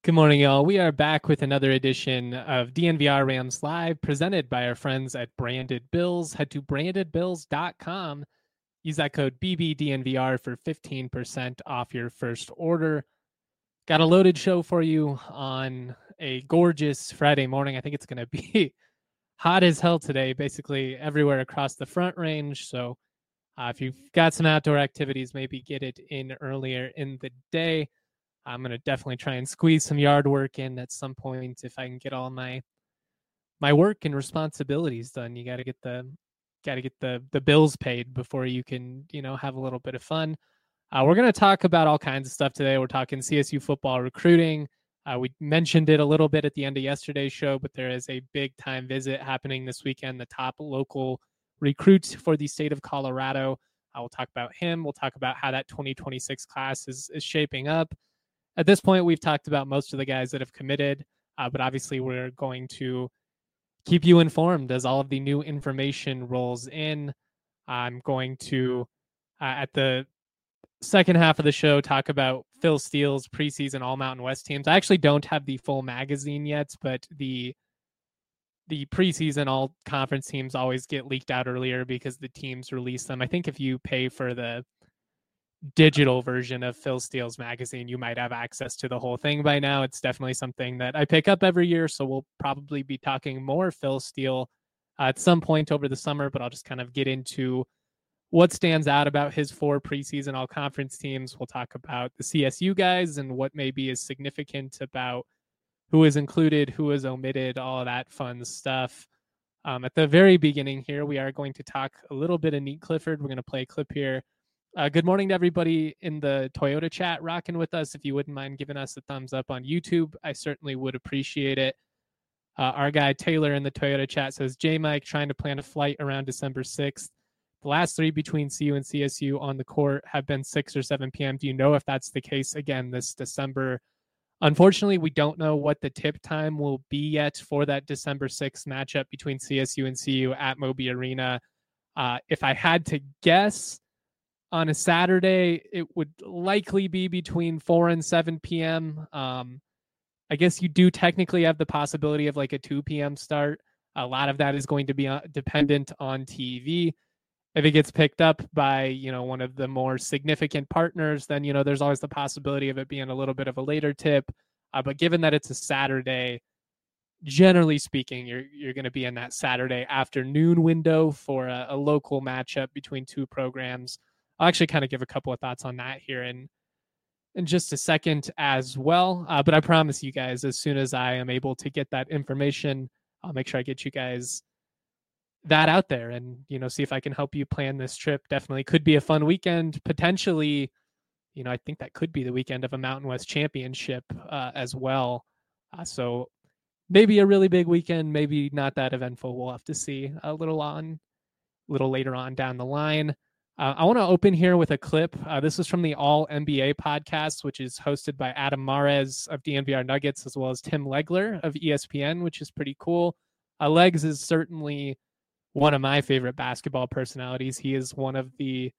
Good morning, y'all. We are back with another edition of DNVR Rams Live, presented by our friends at Branded Bills. Head to brandedbills.com. Use that code BBDNVR for 15% off your first order. Got a loaded show for you on a gorgeous Friday morning. I think it's going to be hot as hell today, basically everywhere across the Front Range. So if you've got some outdoor activities, maybe get it in earlier in the day. I'm going to definitely try and squeeze some yard work in at some point if I can get all my work and responsibilities done. You got to get the bills paid before you can, have a little bit of fun. We're going to talk about all kinds of stuff today. We're talking CSU football recruiting. We mentioned it a little bit at the end of yesterday's show, but there is a big time visit happening this weekend. The top local recruit for the state of Colorado. We'll talk about him. We'll talk about how that 2026 class is shaping up. At this point, we've talked about most of the guys that have committed, but obviously we're going to keep you informed as all of the new information rolls in. I'm going to, at the second half of the show, talk about Phil Steele's preseason All Mountain West teams. I actually don't have the full magazine yet, but the preseason all conference teams always get leaked out earlier because the teams release them. I think if you pay for the digital version of Phil Steele's magazine, you might have access to the whole thing by now. It's definitely something that I pick up every year, so we'll probably be talking more Phil Steele at some point over the summer, but I'll just kind of get into what stands out about his 4 preseason all-conference teams. We'll talk about the CSU guys and what maybe is significant about who is included, who is omitted, all of that fun stuff. At the very beginning here, we are going to talk a little bit of Nique Clifford. We're going to play a clip here. Good morning to everybody in the Toyota chat rocking with us. If you wouldn't mind giving us a thumbs up on YouTube, I certainly would appreciate it. Our guy Taylor in the Toyota chat says, J-Mike trying to plan a flight around December 6th. The last 3 between CU and CSU on the court have been 6 or 7 p.m. Do you know if that's the case again this December? Unfortunately, we don't know what the tip time will be yet for that December 6th matchup between CSU and CU at Moby Arena. If I had to guess, on a Saturday, it would likely be between 4 and 7 p.m. I guess you do technically have the possibility of like a 2 p.m. start. A lot of that is going to be dependent on TV. If it gets picked up by, one of the more significant partners, then, there's always the possibility of it being a little bit of a later tip. But given that it's a Saturday, generally speaking, you're going to be in that Saturday afternoon window for a local matchup between 2 programs. I'll actually kind of give a couple of thoughts on that here in just a second as well. But I promise you guys, as soon as I am able to get that information, I'll make sure I get you guys that out there and, see if I can help you plan this trip. Definitely could be a fun weekend. Potentially, I think that could be the weekend of a Mountain West championship as well. So maybe a really big weekend, maybe not that eventful. We'll have to see a little later on down the line. I want to open here with a clip. This is from the All NBA podcast, which is hosted by Adam Mares of DNVR Nuggets, as well as Tim Legler of ESPN, which is pretty cool. Legs is certainly one of my favorite basketball personalities. He is one of the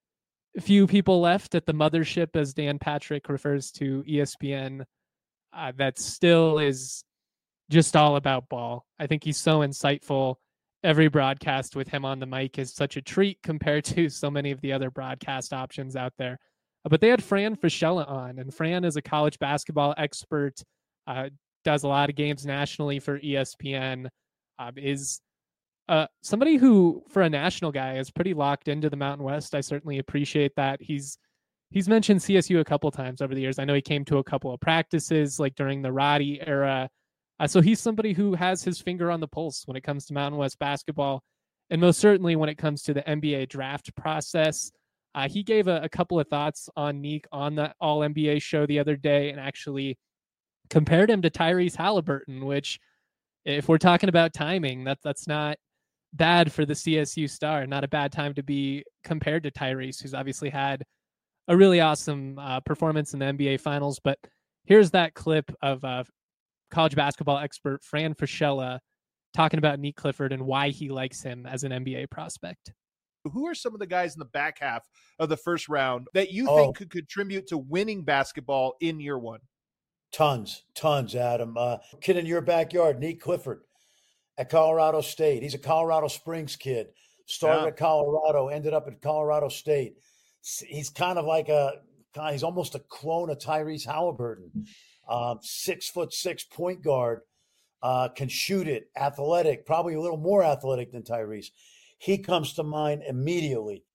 few people left at the mothership, as Dan Patrick refers to ESPN, that still is just all about ball. I think he's so insightful. Every broadcast with him on the mic is such a treat compared to so many of the other broadcast options out there. But they had Fran Fraschilla on, and Fran is a college basketball expert, does a lot of games nationally for ESPN, is somebody who, for a national guy, is pretty locked into the Mountain West. I certainly appreciate that. He's mentioned CSU a couple times over the years. I know he came to a couple of practices, like during the Roddy era. So he's somebody who has his finger on the pulse when it comes to Mountain West basketball, and most certainly when it comes to the NBA draft process. He gave a couple of thoughts on Nique on the All NBA show the other day, and actually compared him to Tyrese Halliburton, which, if we're talking about timing, that's not bad for the CSU star. Not a bad time to be compared to Tyrese, who's obviously had a really awesome performance in the NBA Finals. But here's that clip of college basketball expert Fran Fraschilla talking about Nique Clifford and why he likes him as an NBA prospect. Who are some of the guys in the back half of the first round that you think could contribute to winning basketball in year one? Tons, Adam. Kid in your backyard, Nick Clifford at Colorado State. He's a Colorado Springs kid. Started Yeah. at Colorado, ended up at Colorado State. He's kind of like he's almost a clone of Tyrese Halliburton. 6'6" point guard, can shoot it, athletic, probably a little more athletic than Tyrese. He comes to mind immediately.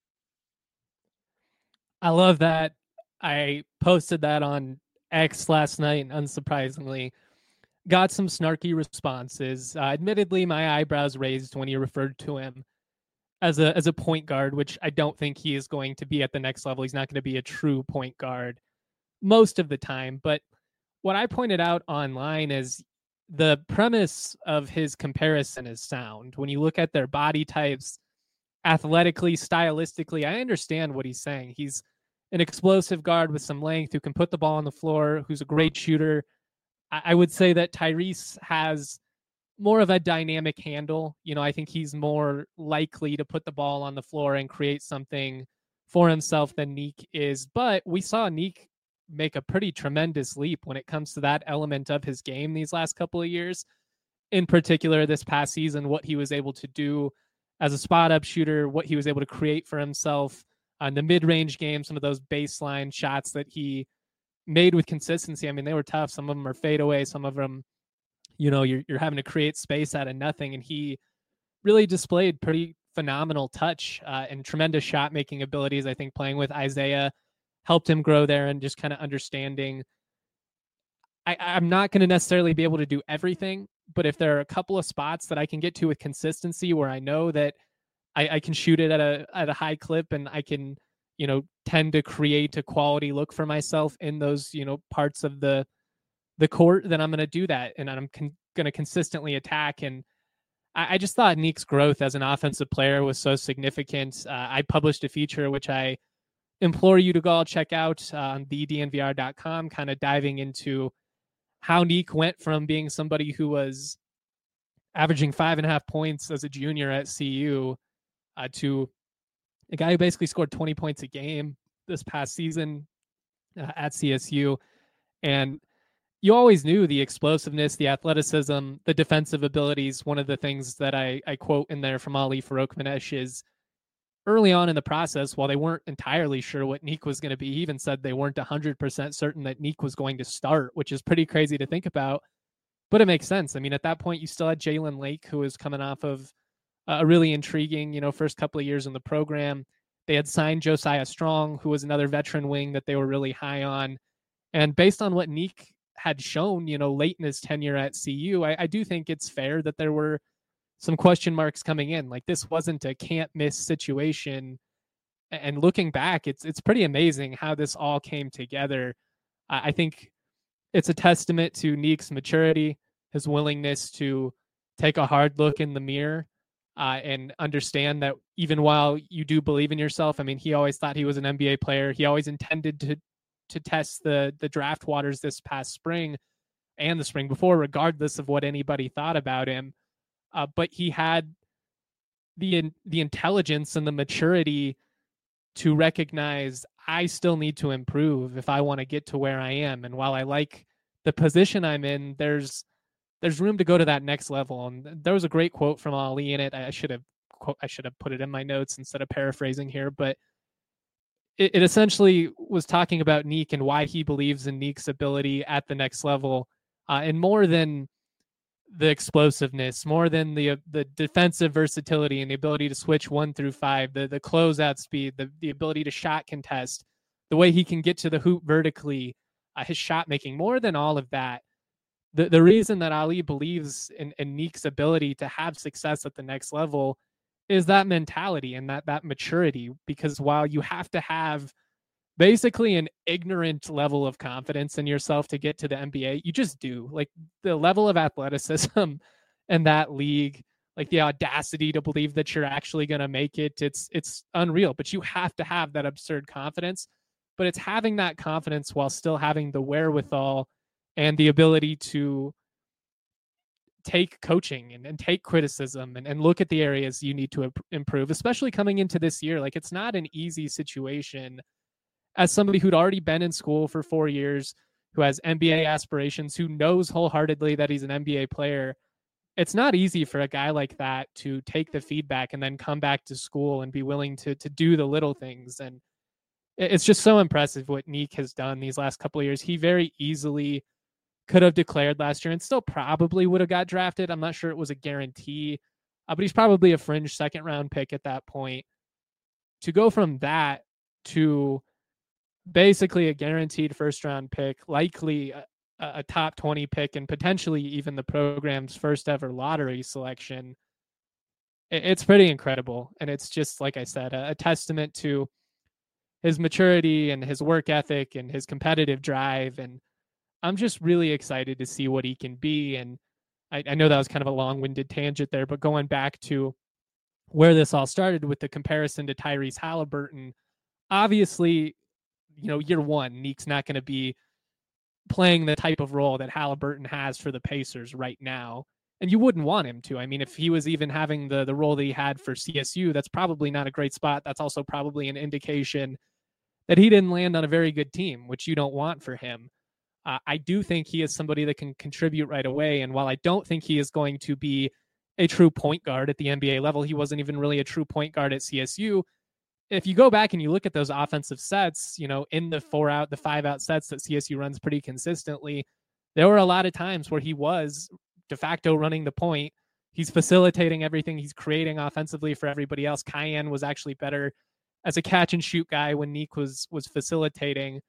I love that. I posted that on X last night, and unsurprisingly, got some snarky responses. Admittedly, my eyebrows raised when you referred to him as a point guard, which I don't think he is going to be at the next level. He's not going to be a true point guard most of the time. But what I pointed out online is the premise of his comparison is sound. When you look at their body types, athletically, stylistically, I understand what he's saying. He's an explosive guard with some length who can put the ball on the floor, who's a great shooter. I would say that Tyrese has more of a dynamic handle. I think he's more likely to put the ball on the floor and create something for himself than Nick is. But we saw Nick make a pretty tremendous leap when it comes to that element of his game these last couple of years. In particular, this past season, what he was able to do as a spot-up shooter, what he was able to create for himself on the mid-range game, some of those baseline shots that he made with consistency. I mean, they were tough. Some of them are fadeaway. Some of them, you're having to create space out of nothing. And he really displayed pretty phenomenal touch and tremendous shot-making abilities. I think playing with Isaiah helped him grow there and just kind of understanding. I'm not going to necessarily be able to do everything, but if there are a couple of spots that I can get to with consistency where I know that I can shoot it at a high clip and I can, tend to create a quality look for myself in those, parts of the court, then I'm going to do that. And I'm going to consistently attack. And I just thought Nick's growth as an offensive player was so significant. I published a feature, which I implore you to go check out on thednvr.com, kind of diving into how Nick went from being somebody who was averaging 5.5 points as a junior at CU to a guy who basically scored 20 points a game this past season at CSU. And you always knew the explosiveness, the athleticism, the defensive abilities. One of the things that I quote in there from Ali Farokhmanesh is early on in the process, while they weren't entirely sure what Nick was going to be, he even said they weren't 100% certain that Nick was going to start, which is pretty crazy to think about. But it makes sense. I mean, at that point, you still had Jalen Lake, who was coming off of a really intriguing, first couple of years in the program. They had signed Josiah Strong, who was another veteran wing that they were really high on. And based on what Nick had shown, late in his tenure at CU, I do think it's fair that there were some question marks coming in. Like, this wasn't a can't miss situation. And looking back, it's pretty amazing how this all came together. I think it's a testament to Nick's maturity, his willingness to take a hard look in the mirror and understand that even while you do believe in yourself, I mean, he always thought he was an NBA player. He always intended to test the draft waters this past spring and the spring before, regardless of what anybody thought about him. But he had the intelligence and the maturity to recognize I still need to improve if I want to get to where I am. And while I like the position I'm in, there's room to go to that next level. And there was a great quote from Ali in it. I should have put it in my notes instead of paraphrasing here, but it essentially was talking about Nick and why he believes in Nick's ability at the next level, and more than the explosiveness, more than the defensive versatility and the ability to switch 1 through 5, the closeout speed, the ability to shot contest, the way he can get to the hoop vertically, his shot making. More than all of that, the reason that Ali believes in Nick's ability to have success at the next level is that mentality and that maturity. Because while you have to have basically an ignorant level of confidence in yourself to get to the NBA, you just do. Like, the level of athleticism in that league, like the audacity to believe that you're actually going to make it, it's unreal. But you have to have that absurd confidence. But it's having that confidence while still having the wherewithal and the ability to take coaching and take criticism and look at the areas you need to improve, especially coming into this year. Like, it's not an easy situation as somebody who'd already been in school for 4 years, who has NBA aspirations, who knows wholeheartedly that he's an NBA player. It's not easy for a guy like that to take the feedback and then come back to school and be willing to do the little things. And it's just so impressive what Nick has done these last couple of years. He very easily could have declared last year and still probably would have got drafted. I'm not sure it was a guarantee, but he's probably a fringe second round pick at that point. To go from that to basically a guaranteed first round pick, likely a top 20 pick, and potentially even the program's first ever lottery selection, it's pretty incredible. And it's just, like I said, a testament to his maturity and his work ethic and his competitive drive. And I'm just really excited to see what he can be. And I know that was kind of a long-winded tangent there, but going back to where this all started with the comparison to Tyrese Halliburton, obviously, year one, Nick's not going to be playing the type of role that Halliburton has for the Pacers right now. And you wouldn't want him to. I mean, if he was even having the role that he had for CSU, that's probably not a great spot. That's also probably an indication that he didn't land on a very good team, which you don't want for him. I do think he is somebody that can contribute right away. And while I don't think he is going to be a true point guard at the NBA level, he wasn't even really a true point guard at CSU. If you go back and you look at those offensive sets, in the 4-out, the 5-out sets that CSU runs pretty consistently, there were a lot of times where he was de facto running the point. He's facilitating everything. He's creating offensively for everybody else. Cayenne was actually better as a catch and shoot guy when Nick was facilitating.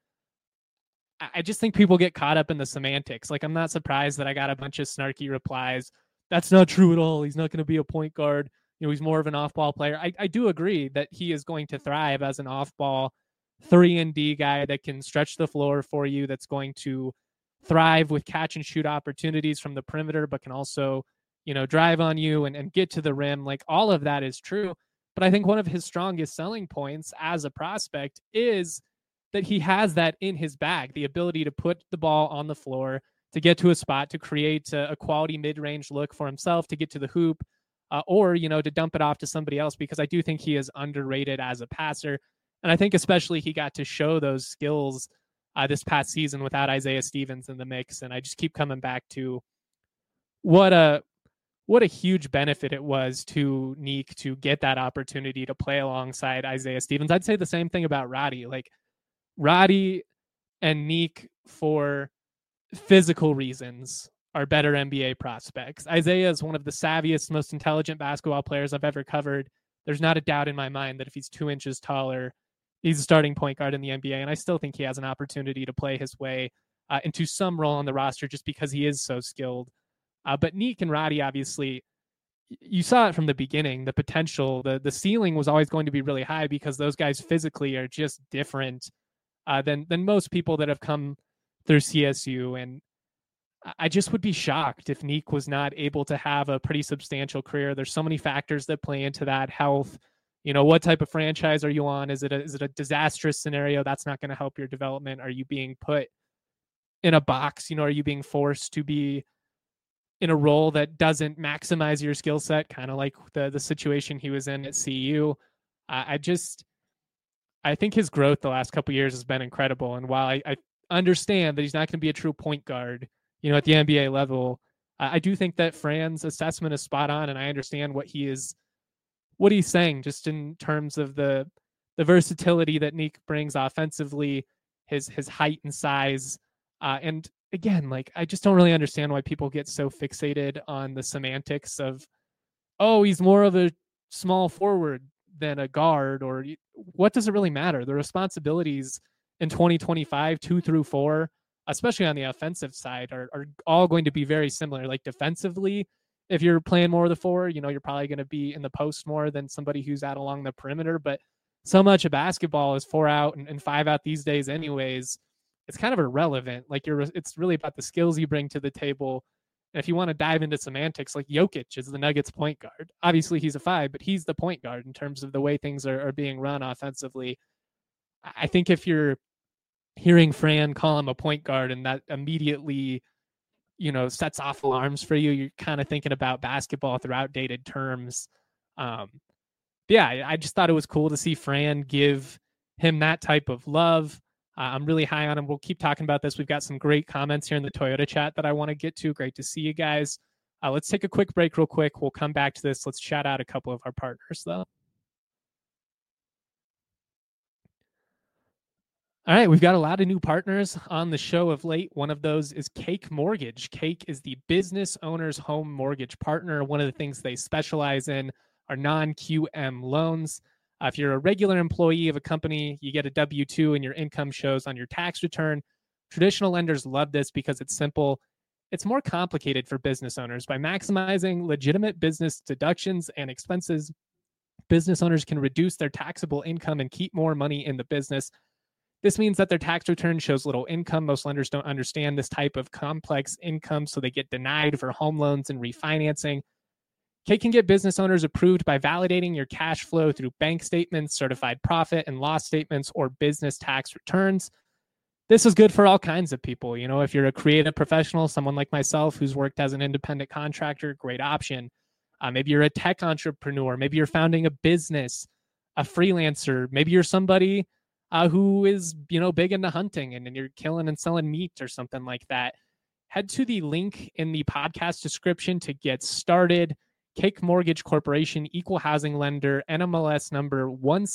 I just think people get caught up in the semantics. Like, I'm not surprised that I got a bunch of snarky replies. That's not true at all. He's not going to be a point guard. He's more of an off-ball player. I do agree that he is going to thrive as an off-ball 3-and-D guy that can stretch the floor for you, that's going to thrive with catch and shoot opportunities from the perimeter, but can also, drive on you and get to the rim. Like, all of that is true. But I think one of his strongest selling points as a prospect is that he has that in his bag, the ability to put the ball on the floor, to get to a spot, to create a quality mid-range look for himself, to get to the hoop, or, to dump it off to somebody else, because I do think he is underrated as a passer. And I think especially he got to show those skills this past season without Isaiah Stevens in the mix. And I just keep coming back to what a huge benefit it was to Nick to get that opportunity to play alongside Isaiah Stevens. I'd say the same thing about Roddy. Like, Roddy and Nick, for physical reasons, are better NBA prospects. Isaiah is one of the savviest, most intelligent basketball players I've ever covered. There's not a doubt in my mind that if he's 2 inches taller, he's a starting point guard in the NBA. And I still think he has an opportunity to play his way into some role on the roster just because he is so skilled. But Nick and Roddy, obviously, you saw it from the beginning. The potential, the ceiling was always going to be really high because those guys physically are just different than most people that have come through CSU. And I just would be shocked if Nick was not able to have a pretty substantial career. There's so many factors that play into that. Health, what type of franchise are you on? Is it a disastrous scenario? That's not going to help your development. Are you being put in a box? Are you being forced to be in a role that doesn't maximize your skill set? Kind of like the situation he was in at CU. I think his growth the last couple of years has been incredible. And while I understand that he's not going to be a true point guard, at the NBA level, I do think that Fran's assessment is spot on, and I understand what he's saying, just in terms of the versatility that Nick brings offensively, his height and size, and again, like, I just don't really understand why people get so fixated on the semantics of, oh, he's more of a small forward than a guard, or what does it really matter? The responsibilities in 2025, 2 through 4, especially on the offensive side, are all going to be very similar. Like, defensively, if you're playing more of the 4, you're probably going to be in the post more than somebody who's out along the perimeter. But so much of basketball is 4-out and 5-out these days anyways. It's kind of irrelevant. Like, it's really about the skills you bring to the table. And if you want to dive into semantics, like, Jokic is the Nuggets point guard. Obviously he's a 5, but he's the point guard in terms of the way things are being run offensively. I think if you're hearing Fran call him a point guard and that immediately, sets off alarms for you, you're kind of thinking about basketball through outdated terms. Yeah, I just thought it was cool to see Fran give him that type of love. I'm really high on him. We'll keep talking about this. We've got some great comments here in the Toyota chat that I want to get to. Great to see you guys. Let's take a quick break real quick. We'll come back to this. Let's shout out a couple of our partners, though. All right, we've got a lot of new partners on the show of late. One of those is Cake Mortgage. Cake is the business owner's home mortgage partner. One of the things they specialize in are non-QM loans. If you're a regular employee of a company, you get a W-2 and your income shows on your tax return. Traditional lenders love this because it's simple. It's more complicated for business owners. By maximizing legitimate business deductions and expenses, business owners can reduce their taxable income and keep more money in the business. This means that their tax return shows little income. Most lenders don't understand this type of complex income, so they get denied for home loans and refinancing. Cake can get business owners approved by validating your cash flow through bank statements, certified profit and loss statements, or business tax returns. This is good for all kinds of people. You know, if you're a creative professional, someone like myself who's worked as an independent contractor, great option. Maybe you're a tech entrepreneur. Maybe you're founding a business, a freelancer. Maybe you're somebody who is, big into hunting and you're killing and selling meat or something like that. Head to the link in the podcast description to get started. Cake Mortgage Corporation, equal housing lender, NMLS number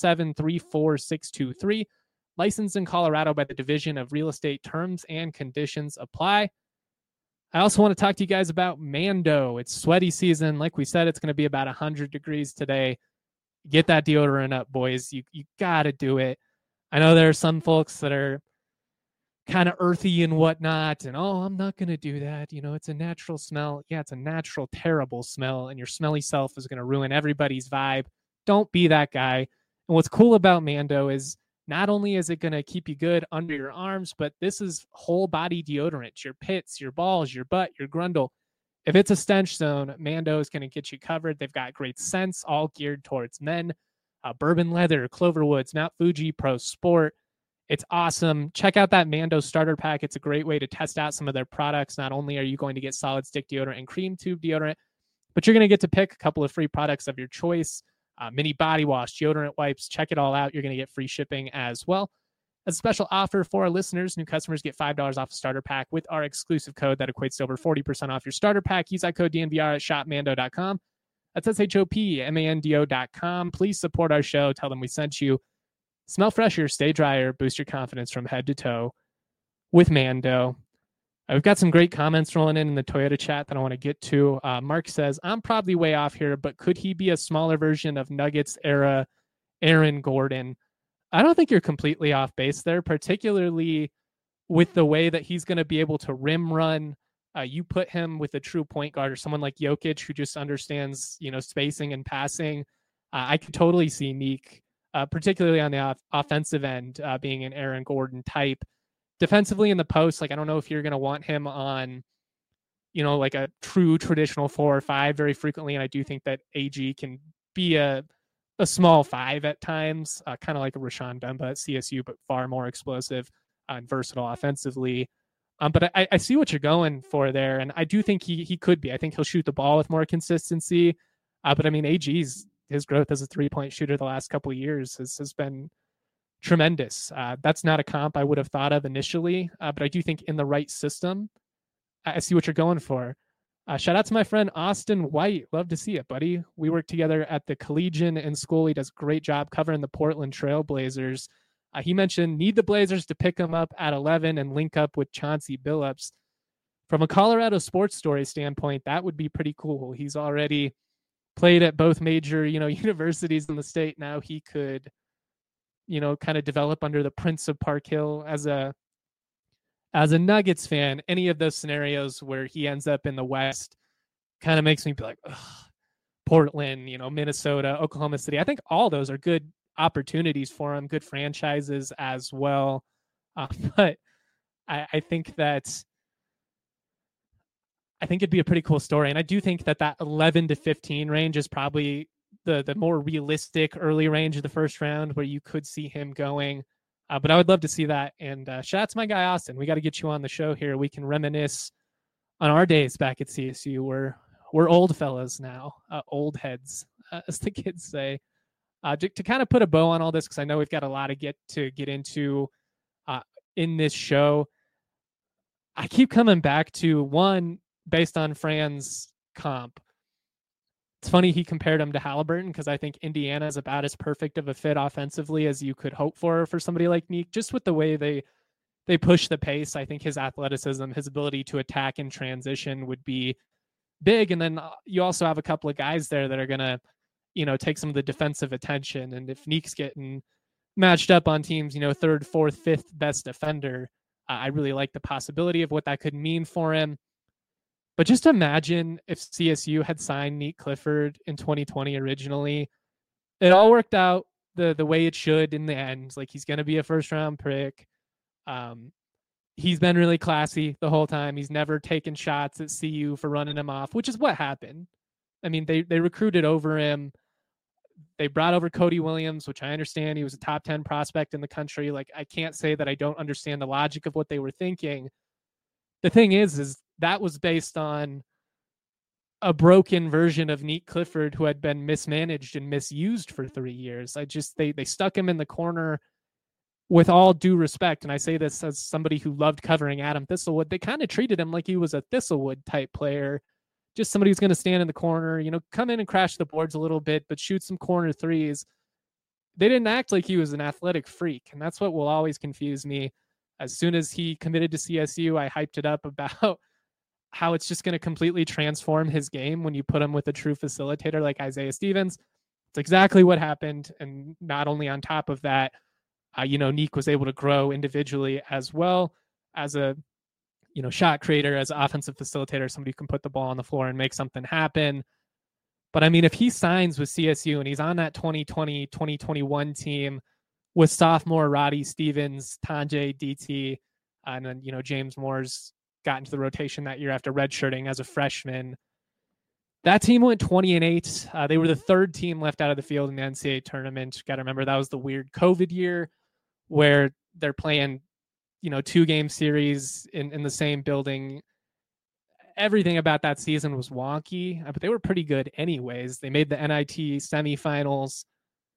1734623, licensed in Colorado by the Division of Real Estate. Terms and conditions apply. I also want to talk to you guys about Mando. It's sweaty season. Like we said, it's going to be about 100 degrees today. Get that deodorant up, boys. You got to do it. I know there are some folks that are kind of earthy and whatnot, and I'm not going to do that. It's a natural smell. Yeah, it's a natural, terrible smell, and your smelly self is going to ruin everybody's vibe. Don't be that guy. And what's cool about Mando is not only is it going to keep you good under your arms, but this is whole body deodorant. Your pits, your balls, your butt, your grundle. If it's a stench zone, Mando is going to get you covered. They've got great scents, all geared towards men. Bourbon Leather, Cloverwoods, Mount Fuji, Pro Sport. It's awesome. Check out that Mando starter pack. It's a great way to test out some of their products. Not only are you going to get solid stick deodorant and cream tube deodorant, but you're going to get to pick a couple of free products of your choice. Mini body wash, deodorant wipes. Check it all out. You're going to get free shipping as well. As a special offer for our listeners, new customers get $5 off a starter pack with our exclusive code that equates to over 40% off your starter pack. Use that code DNVR at shopmando.com. That's SHOPMANDO.com. Please support our show. Tell them we sent you. Smell fresher, stay drier, boost your confidence from head to toe with Mando. We've got some great comments rolling in the Toyota chat that I want to get to. Mark says, I'm probably way off here, but could he be a smaller version of Nuggets era Aaron Gordon? I don't think you're completely off base there, particularly with the way that he's going to be able to rim run. You put him with a true point guard or someone like Jokic who just understands, spacing and passing. I could totally see Neek, particularly on the offensive end, being an Aaron Gordon type. Defensively in the post, I don't know if you're going to want him on, like a true traditional 4 or 5 very frequently. And I do think that AG can be a small 5 at times, kind of like a Rashawn Bemba at CSU, but far more explosive and versatile offensively. But I see what you're going for there, and I do think he could be. I think he'll shoot the ball with more consistency. But I mean, AG's his growth as a 3-point shooter the last couple of years has been tremendous. That's not a comp I would have thought of initially, but I do think in the right system, I see what you're going for. Shout out to my friend Austin White. Love to see it, buddy. We work together at the Collegian in school. He does a great job covering the Portland Trail Blazers. He mentioned need the Blazers to pick him up at 11 and link up with Chauncey Billups. From a Colorado sports story standpoint, that would be pretty cool. He's already played at both major, universities in the state. Now he could, kind of develop under the Prince of Park Hill as a Nuggets fan. Any of those scenarios where he ends up in the West kind of makes me be like, ugh, Portland, Minnesota, Oklahoma City. I think all those are good opportunities for him, good franchises as well. But I think it'd be a pretty cool story. And I do think that 11 to 15 range is probably the more realistic early range of the first round where you could see him going. But I would love to see that. And shout out to my guy, Austin. We got to get you on the show here. We can reminisce on our days back at CSU. We're old fellas now, old heads, as the kids say. To kind of put a bow on all this, because I know we've got a lot to get into. in this show. I keep coming back to one based on Fran's comp. It's funny he compared him to Halliburton because I think Indiana is about as perfect of a fit offensively as you could hope for somebody like Neek, just with the way they push the pace. I think his athleticism, his ability to attack in transition would be big. And then you also have a couple of guys there that are going to, take some of the defensive attention. And if Neek's getting matched up on teams, third, fourth, fifth best defender, I really like the possibility of what that could mean for him. But just imagine if CSU had signed Neek Clifford in 2020 originally. It all worked out the way it should in the end. Like, he's going to be a first-round pick. He's been really classy the whole time. He's never taken shots at CU for running him off, which is what happened. I mean, they recruited over him. They brought over Cody Williams, which I understand. He was a top 10 prospect in the country. Like, I can't say that I don't understand the logic of what they were thinking. The thing is that was based on a broken version of Neek Clifford who had been mismanaged and misused for 3 years. They stuck him in the corner. With all due respect, and I say this as somebody who loved covering Adam Thistlewood, they kind of treated him like he was a Thistlewood type player, just somebody who's going to stand in the corner, come in and crash the boards a little bit, but shoot some corner threes. They didn't act like he was an athletic freak, and that's what will always confuse me. As soon as he committed to CSU, I hyped it up about how it's just going to completely transform his game when you put him with a true facilitator like Isaiah Stevens. It's exactly what happened, and not only on top of that, Neek was able to grow individually as well as a, shot creator, as an offensive facilitator, somebody who can put the ball on the floor and make something happen. But I mean, if he signs with CSU and he's on that 2020, 2021 team with sophomore Roddy Stevens, Tanjay DT, and then, James Moore's got into the rotation that year after redshirting as a freshman. That team went 20-8. They were the third team left out of the field in the NCAA tournament. Got to remember that was the weird COVID year where they're playing, 2-game series in the same building. Everything about that season was wonky, but they were pretty good anyways. They made the NIT semifinals.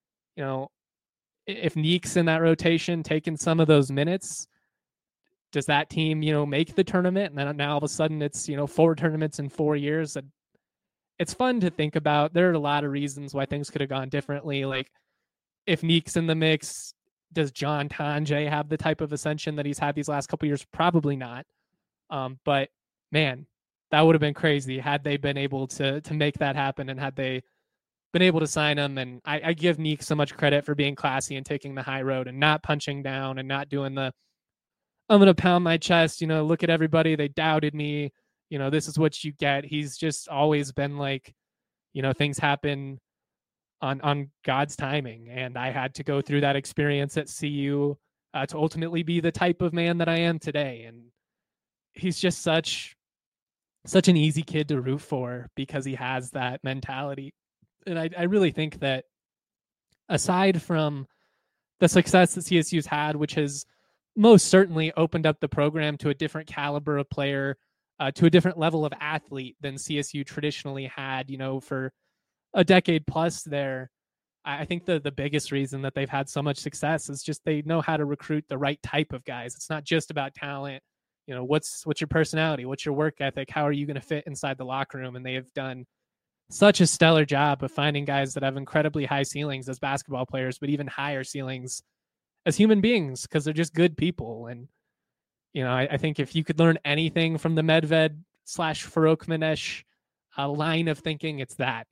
If Neek's in that rotation, taking some of those minutes, does that team, make the tournament? And then now all of a sudden it's, 4 tournaments in 4 years. It's fun to think about. There are a lot of reasons why things could have gone differently. Like, if Neek's in the mix, does John Tanjay have the type of ascension that he's had these last couple of years? Probably not. But man, that would have been crazy had they been able to make that happen, and had they been able to sign him. And I give Neek so much credit for being classy and taking the high road and not punching down and not doing the, I'm going to pound my chest, look at everybody. They doubted me. This is what you get. He's just always been like, things happen on God's timing. And I had to go through that experience at CU to ultimately be the type of man that I am today. And he's just such an easy kid to root for because he has that mentality. And I really think that aside from the success that CSU's had, which has most certainly opened up the program to a different caliber of player, to a different level of athlete than CSU traditionally had, for a decade plus there. I think the biggest reason that they've had so much success is just they know how to recruit the right type of guys. It's not just about talent. What's your personality? What's your work ethic? How are you going to fit inside the locker room? And they have done such a stellar job of finding guys that have incredibly high ceilings as basketball players, but even higher ceilings as human beings because they're just good people. And I think if you could learn anything from the Medved / Farouk Manesh line of thinking, it's that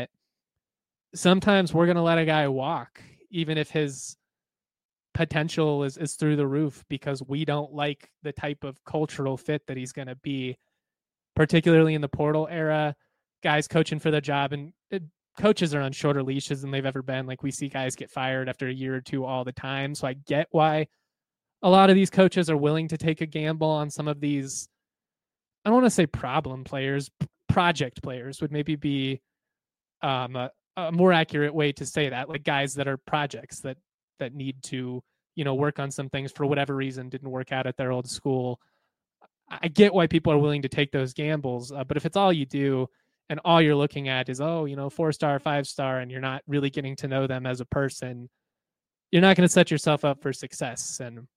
sometimes we're going to let a guy walk, even if his potential is through the roof, because we don't like the type of cultural fit that he's going to be, particularly in the portal era. Guys coaching for their job, and coaches are on shorter leashes than they've ever been. Like, we see guys get fired after a year or two all the time. So I get why a lot of these coaches are willing to take a gamble on some of these, I don't want to say problem players, project players would maybe be a more accurate way to say that, like guys that are projects that need to, work on some things for whatever reason didn't work out at their old school. I get why people are willing to take those gambles, but if it's all you do and all you're looking at is, 4-star, 5-star, and you're not really getting to know them as a person, you're not going to set yourself up for success. And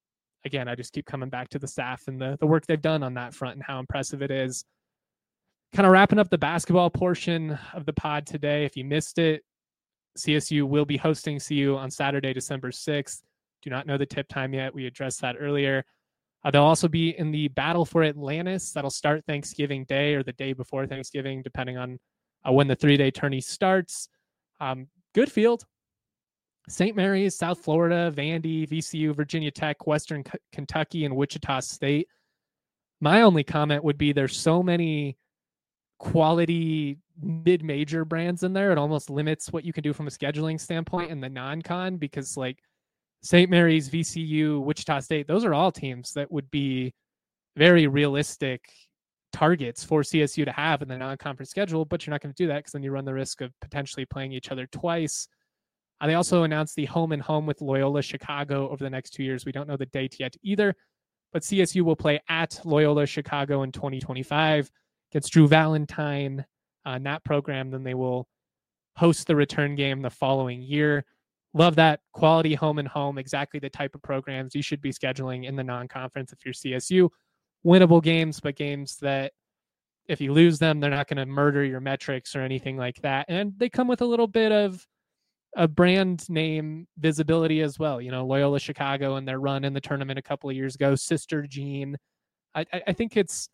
again, I just keep coming back to the staff and the work they've done on that front and how impressive it is. Kind of wrapping up the basketball portion of the pod today. If you missed it, CSU will be hosting CU on Saturday, December 6th. Do not know the tip time yet. We addressed that earlier. They'll also be in the Battle for Atlantis. That'll start Thanksgiving Day or the day before Thanksgiving, depending on when the 3-day tourney starts. Good field. St. Mary's, South Florida, Vandy, VCU, Virginia Tech, Western Kentucky, and Wichita State. My only comment would be there's so many quality mid-major brands in there. It almost limits what you can do from a scheduling standpoint in the non-con, because like St. Mary's, VCU, Wichita State, those are all teams that would be very realistic targets for CSU to have in the non-conference schedule, but you're not going to do that because then you run the risk of potentially playing each other twice. They also announced the home and home with Loyola Chicago over the next 2 years. We don't know the date yet either, but CSU will play at Loyola Chicago in 2025 against Drew Valentine in that program. Then they will host the return game the following year. Love that quality home and home, exactly the type of programs you should be scheduling in the non-conference if you're CSU. Winnable games, but games that if you lose them, they're not going to murder your metrics or anything like that. And they come with a little bit of a brand name visibility as well. You know, Loyola Chicago and their run in the tournament a couple of years ago, Sister Jean. I think it's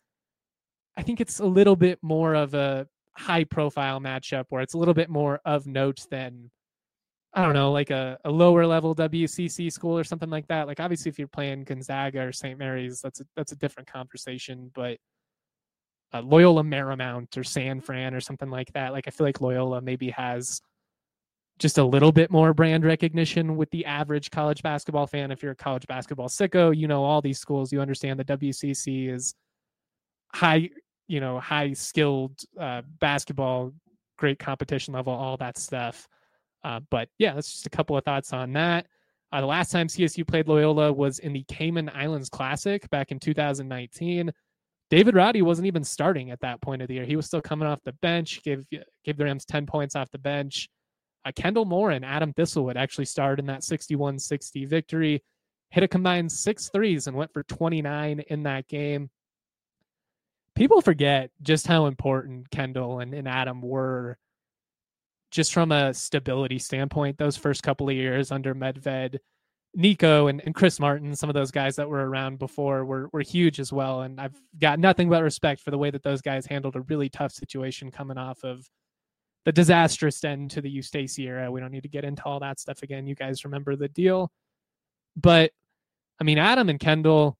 a little bit more of a high profile matchup where it's a little bit more of note than, I don't know, like a lower level WCC school or something like that. Like obviously if you're playing Gonzaga or St. Mary's, that's a different conversation, but Loyola Marymount or San Fran or something like that. Like I feel like Loyola maybe has just a little bit more brand recognition with the average college basketball fan. If you're a college basketball sicko, you know all these schools, you understand the WCC is high skilled basketball, great competition level, all that stuff. But yeah, that's just a couple of thoughts on that. The last time CSU played Loyola was in the Cayman Islands Classic back in 2019. David Roddy wasn't even starting at that point of the year. He was still coming off the bench, gave the Rams 10 points off the bench. Kendall Moore and Adam Thistlewood actually starred in that 61-60 victory, hit a combined 6 threes and went for 29 in that game. People forget just how important Kendall and Adam were just from a stability standpoint those first couple of years under Medved. Nico and Chris Martin, some of those guys that were around before were huge as well. And I've got nothing but respect for the way that those guys handled a really tough situation coming off of the disastrous end to the Eustace era. We don't need to get into all that stuff again. You guys remember the deal. But, I mean, Adam and Kendall,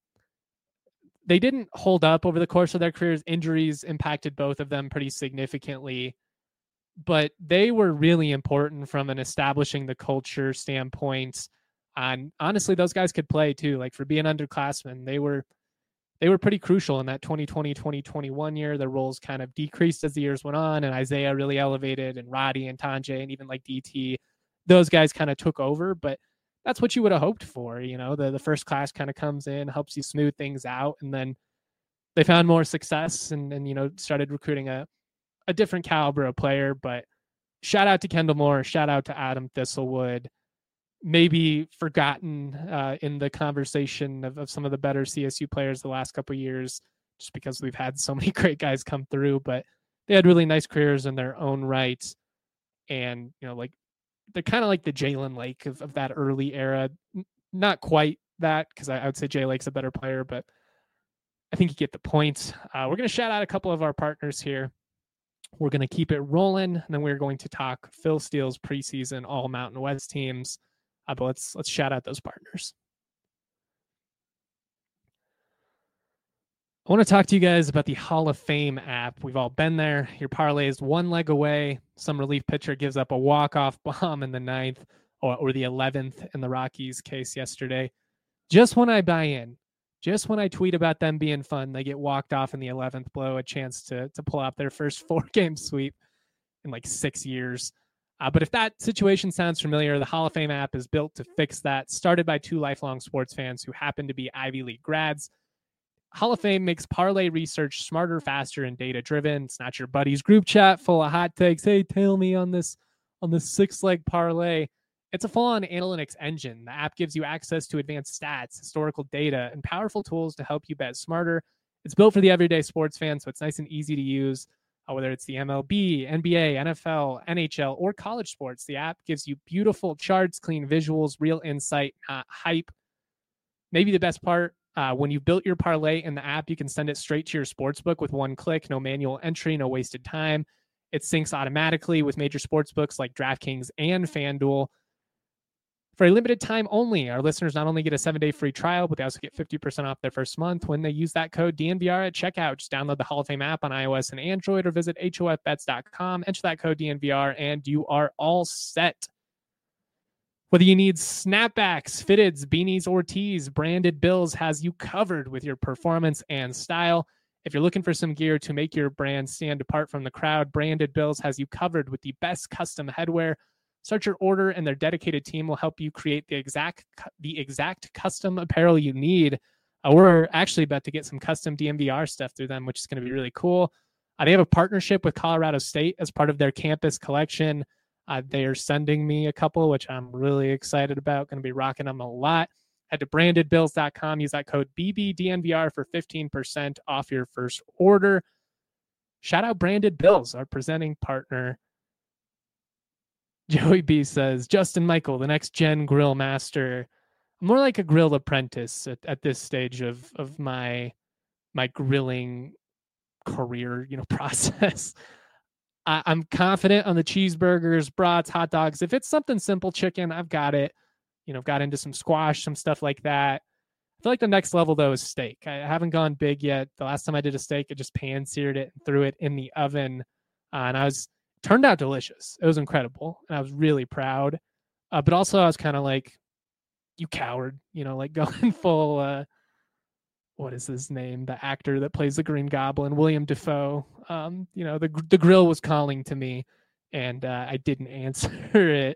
they didn't hold up over the course of their careers. Injuries impacted both of them pretty significantly. But they were really important from an establishing the culture standpoint. And honestly, those guys could play too. Like for being underclassmen, they were pretty crucial in that 2020-2021 year. Their roles kind of decreased as the years went on, and Isaiah really elevated, and Roddy and Tanjay, and even like DT, those guys kind of took over. But that's what you would have hoped for. You know, the first class kind of comes in, helps you smooth things out, and then they found more success and you know, started recruiting a different caliber of player. But shout out to Kendall Moore, shout out to Adam Thistlewood. Maybe forgotten in the conversation of some of the better CSU players the last couple of years, just because we've had so many great guys come through, but they had really nice careers in their own right. And, you know, like they're kind of like the Jalen Lake of that early era. Not quite that, because I would say Jay Lake's a better player, but I think you get the point. We're going to shout out a couple of our partners here. We're going to keep it rolling, and then we're going to talk Phil Steele's preseason all Mountain West teams. But let's shout out those partners. I want to talk to you guys about the Hall of Fame app. We've all been there. Your parlay is one leg away. Some relief pitcher gives up a walk-off bomb in the 9th or the 11th in the Rockies case yesterday. Just when I buy in, just when I tweet about them being fun, they get walked off in the 11th, blow a chance to pull out their first 4-game sweep in like 6 years. But if that situation sounds familiar, the Hall of Fame app is built to fix that. Started by 2 lifelong sports fans who happen to be Ivy League grads. Hall of Fame makes parlay research smarter, faster, and data-driven. It's not your buddy's group chat full of hot takes. Hey, tail me on this 6-leg parlay. It's a full-on analytics engine. The app gives you access to advanced stats, historical data, and powerful tools to help you bet smarter. It's built for the everyday sports fan, so it's nice and easy to use. Whether it's the MLB, NBA, NFL, NHL, or college sports, the app gives you beautiful charts, clean visuals, real insight, not hype. Maybe the best part, when you built your parlay in the app, you can send it straight to your sportsbook with one click, no manual entry, no wasted time. It syncs automatically with major sportsbooks like DraftKings and FanDuel. For a limited time only, our listeners not only get a 7-day free trial, but they also get 50% off their first month when they use that code DNVR at checkout. Just download the Hall of Fame app on iOS and Android or visit HOFBets.com. Enter that code DNVR and you are all set. Whether you need snapbacks, fitteds, beanies, or tees, Branded Bills has you covered with your performance and style. If you're looking for some gear to make your brand stand apart from the crowd, Branded Bills has you covered with the best custom headwear. Start your order and their dedicated team will help you create the exact custom apparel you need. We're actually about to get some custom DNVR stuff through them, which is going to be really cool. They have a partnership with Colorado State as part of their campus collection. They are sending me a couple, which I'm really excited about. Going to be rocking them a lot. Head to brandedbills.com. Use that code BBDNVR for 15% off your first order. Shout out Branded Bills, our presenting partner. Joey B says, Justin Michael, the next gen grill master. More like a grill apprentice at this stage of my grilling career, process. I'm confident on the cheeseburgers, brats, hot dogs. If it's something simple, chicken, I've got it. Got into some squash, some stuff like that. I feel like the next level, though, is steak. I haven't gone big yet. The last time I did a steak, I just pan-seared it and threw it in the oven. And turned out delicious. It was incredible. And I was really proud. But also I was kind of like, you coward, like going full, what is his name? The actor that plays the Green Goblin, William Dafoe. The grill was calling to me and I didn't answer it.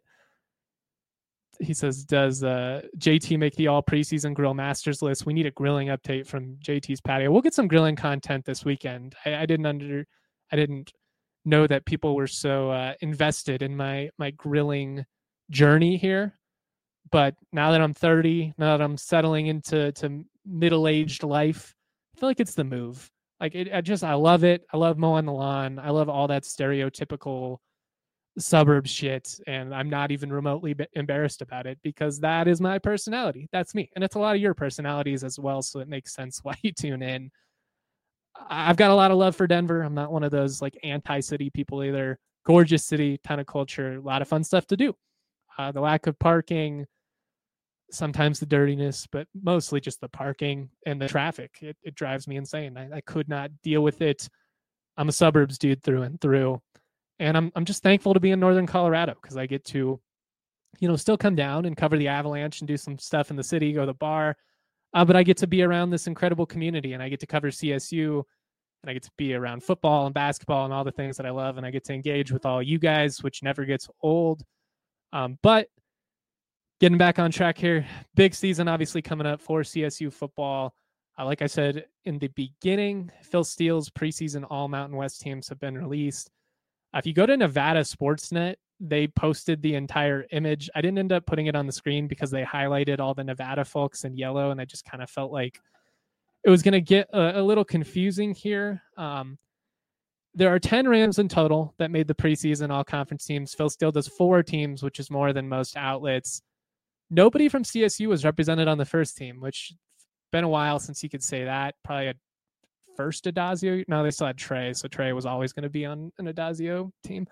He says, does JT make the all preseason grill masters list? We need a grilling update from JT's patio. We'll get some grilling content this weekend. I didn't know that people were so invested in my grilling journey here. But now that I'm 30, now that I'm settling into middle-aged life, I feel like it's the move. Like I love it. I love mowing the lawn. I love all that stereotypical suburb shit. And I'm not even remotely embarrassed about it because that is my personality. That's me. And it's a lot of your personalities as well. So it makes sense why you tune in. I've got a lot of love for Denver. I'm not one of those like anti-city people either. Gorgeous city, ton of culture, a lot of fun stuff to do. The lack of parking, sometimes the dirtiness, but mostly just the parking and the traffic. It drives me insane. I could not deal with it. I'm a suburbs dude through and through. And I'm just thankful to be in Northern Colorado because I get to, still come down and cover the Avalanche and do some stuff in the city, go to the bar. But I get to be around this incredible community and I get to cover CSU and I get to be around football and basketball and all the things that I love. And I get to engage with all you guys, which never gets old. But getting back on track here, big season obviously coming up for CSU football. Like I said in the beginning, Phil Steele's preseason all Mountain West teams have been released. If you go to Nevada Sportsnet, they posted the entire image. I didn't end up putting it on the screen because they highlighted all the Nevada folks in yellow, and I just kind of felt like it was going to get a little confusing here. There are 10 Rams in total that made the preseason all-conference teams. Phil Steele does 4 teams, which is more than most outlets. Nobody from CSU was represented on the first team, which been a while since you could say that. Probably a first Adazio. No, they still had Trey, so Trey was always going to be on an Adazio team.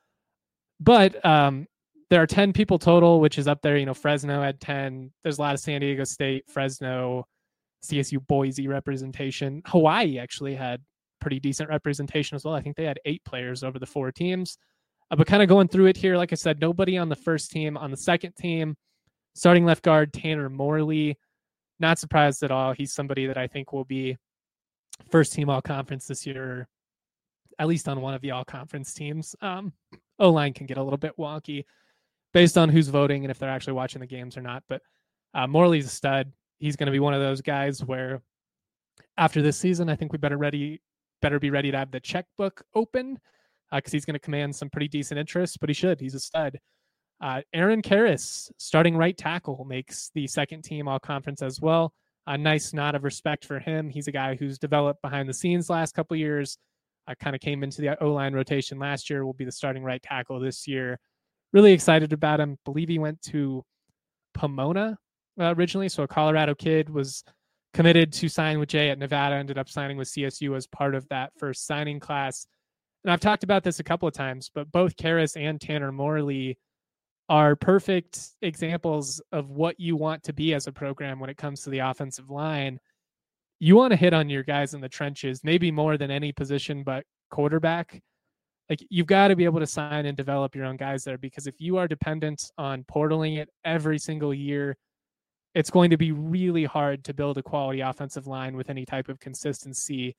But there are 10 people total, which is up there. Fresno had 10. There's a lot of San Diego State, Fresno, CSU, Boise representation. Hawaii actually had pretty decent representation as well. I think they had 8 players over the 4 teams. But kind of going through it here, like I said, nobody on the first team. On the second team, starting left guard Tanner Morley. Not surprised at all. He's somebody that I think will be first team all conference this year, at least on one of the all conference teams. O-line can get a little bit wonky based on who's voting and if they're actually watching the games or not. But Morley's a stud. He's going to be one of those guys where after this season, I think we better be ready to have the checkbook open because he's going to command some pretty decent interest, but he should. He's a stud. Aaron Karras, starting right tackle, makes the second team all conference as well. A nice nod of respect for him. He's a guy who's developed behind the scenes last couple of years. Kind of came into the O-line rotation last year, will be the starting right tackle this year. Really excited about him. Believe he went to Pomona originally. So a Colorado kid, was committed to sign with Jay at Nevada, ended up signing with CSU as part of that first signing class. And I've talked about this a couple of times, but both Karras and Tanner Morley are perfect examples of what you want to be as a program when it comes to the offensive line. You want to hit on your guys in the trenches, maybe more than any position but quarterback. Like, you've got to be able to sign and develop your own guys there, because if you are dependent on portaling it every single year, it's going to be really hard to build a quality offensive line with any type of consistency.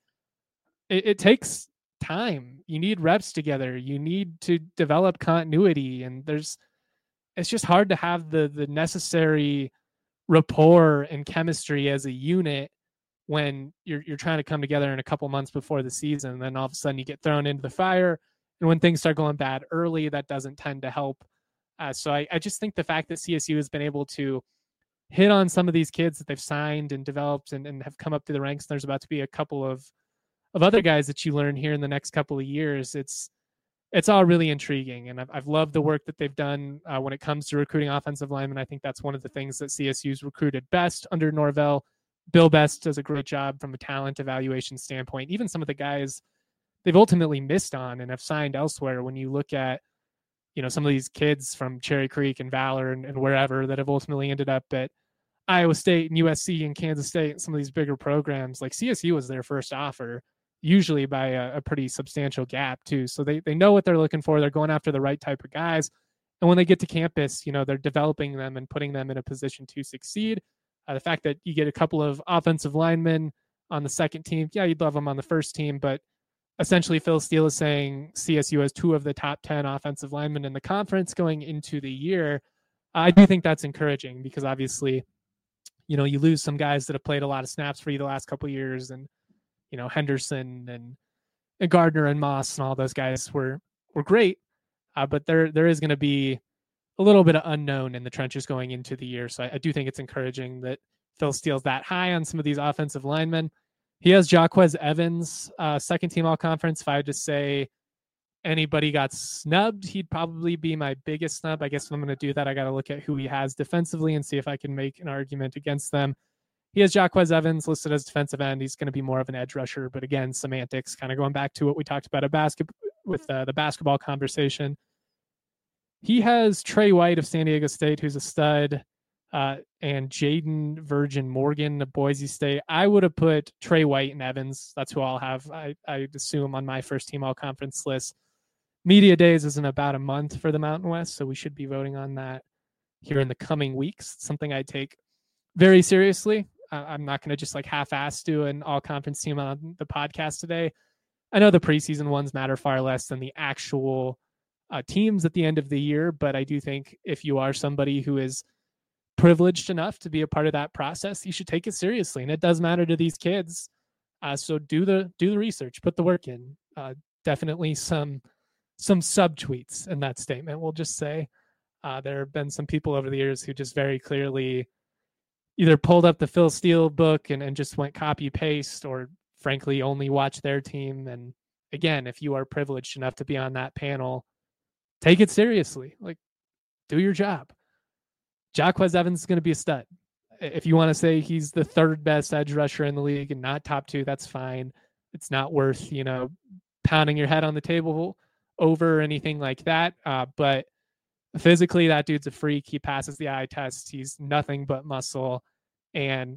It takes time. You need reps together. You need to develop continuity, and it's just hard to have the necessary rapport and chemistry as a unit when you're trying to come together in a couple months before the season. And then all of a sudden you get thrown into the fire. And when things start going bad early, that doesn't tend to help. So I just think the fact that CSU has been able to hit on some of these kids that they've signed and developed and have come up through the ranks, and there's about to be a couple of other guys that you learn here in the next couple of years. It's all really intriguing. And I've loved the work that they've done when it comes to recruiting offensive linemen. I think that's one of the things that CSU's recruited best under Norvell. Bill Best does a great job from a talent evaluation standpoint. Even some of the guys they've ultimately missed on and have signed elsewhere. When you look at, some of these kids from Cherry Creek and Valor and wherever that have ultimately ended up at Iowa State and USC and Kansas State and some of these bigger programs, like CSU was their first offer, usually by a pretty substantial gap too. So they know what they're looking for. They're going after the right type of guys. And when they get to campus, they're developing them and putting them in a position to succeed. The fact that you get a couple of offensive linemen on the second team, yeah, you'd love them on the first team, but essentially Phil Steele is saying CSU has 2 of the top 10 offensive linemen in the conference going into the year. I do think that's encouraging, because obviously, you lose some guys that have played a lot of snaps for you the last couple of years, and Henderson and Gardner and Moss and all those guys were great, but there is going to be a little bit of unknown in the trenches going into the year. So I do think it's encouraging that Phil Steele's that high on some of these offensive linemen. He has Jaquez Evans, second team all conference. If I had to say anybody got snubbed, he'd probably be my biggest snub. I guess if I'm going to do that, I got to look at who he has defensively and see if I can make an argument against them. He has Jaquez Evans listed as defensive end. He's going to be more of an edge rusher, but again, semantics, kind of going back to what we talked about with the basketball conversation. He has Trey White of San Diego State, who's a stud, and Jaden Virgin Morgan of Boise State. I would have put Trey White and Evans. That's who I'll have, I assume, on my first team all conference list. Media days is in about a month for the Mountain West, so we should be voting on that here in the coming weeks. It's something I take very seriously. I'm not going to just half-ass do an all-conference team on the podcast today. I know the preseason ones matter far less than the actual teams at the end of the year, but I do think if you are somebody who is privileged enough to be a part of that process, you should take it seriously, and it does matter to these kids. So do the research, put the work in. Definitely some subtweets in that statement. We'll just say there have been some people over the years who just very clearly either pulled up the Phil Steele book and just went copy paste, or frankly only watch their team. And again, if you are privileged enough to be on that panel, take it seriously. Do your job. Jaquez Evans is going to be a stud. If you want to say he's the 3rd best edge rusher in the league and not top 2, that's fine. It's not worth, pounding your head on the table over or anything like that. But physically, that dude's a freak. He passes the eye test. He's nothing but muscle. And,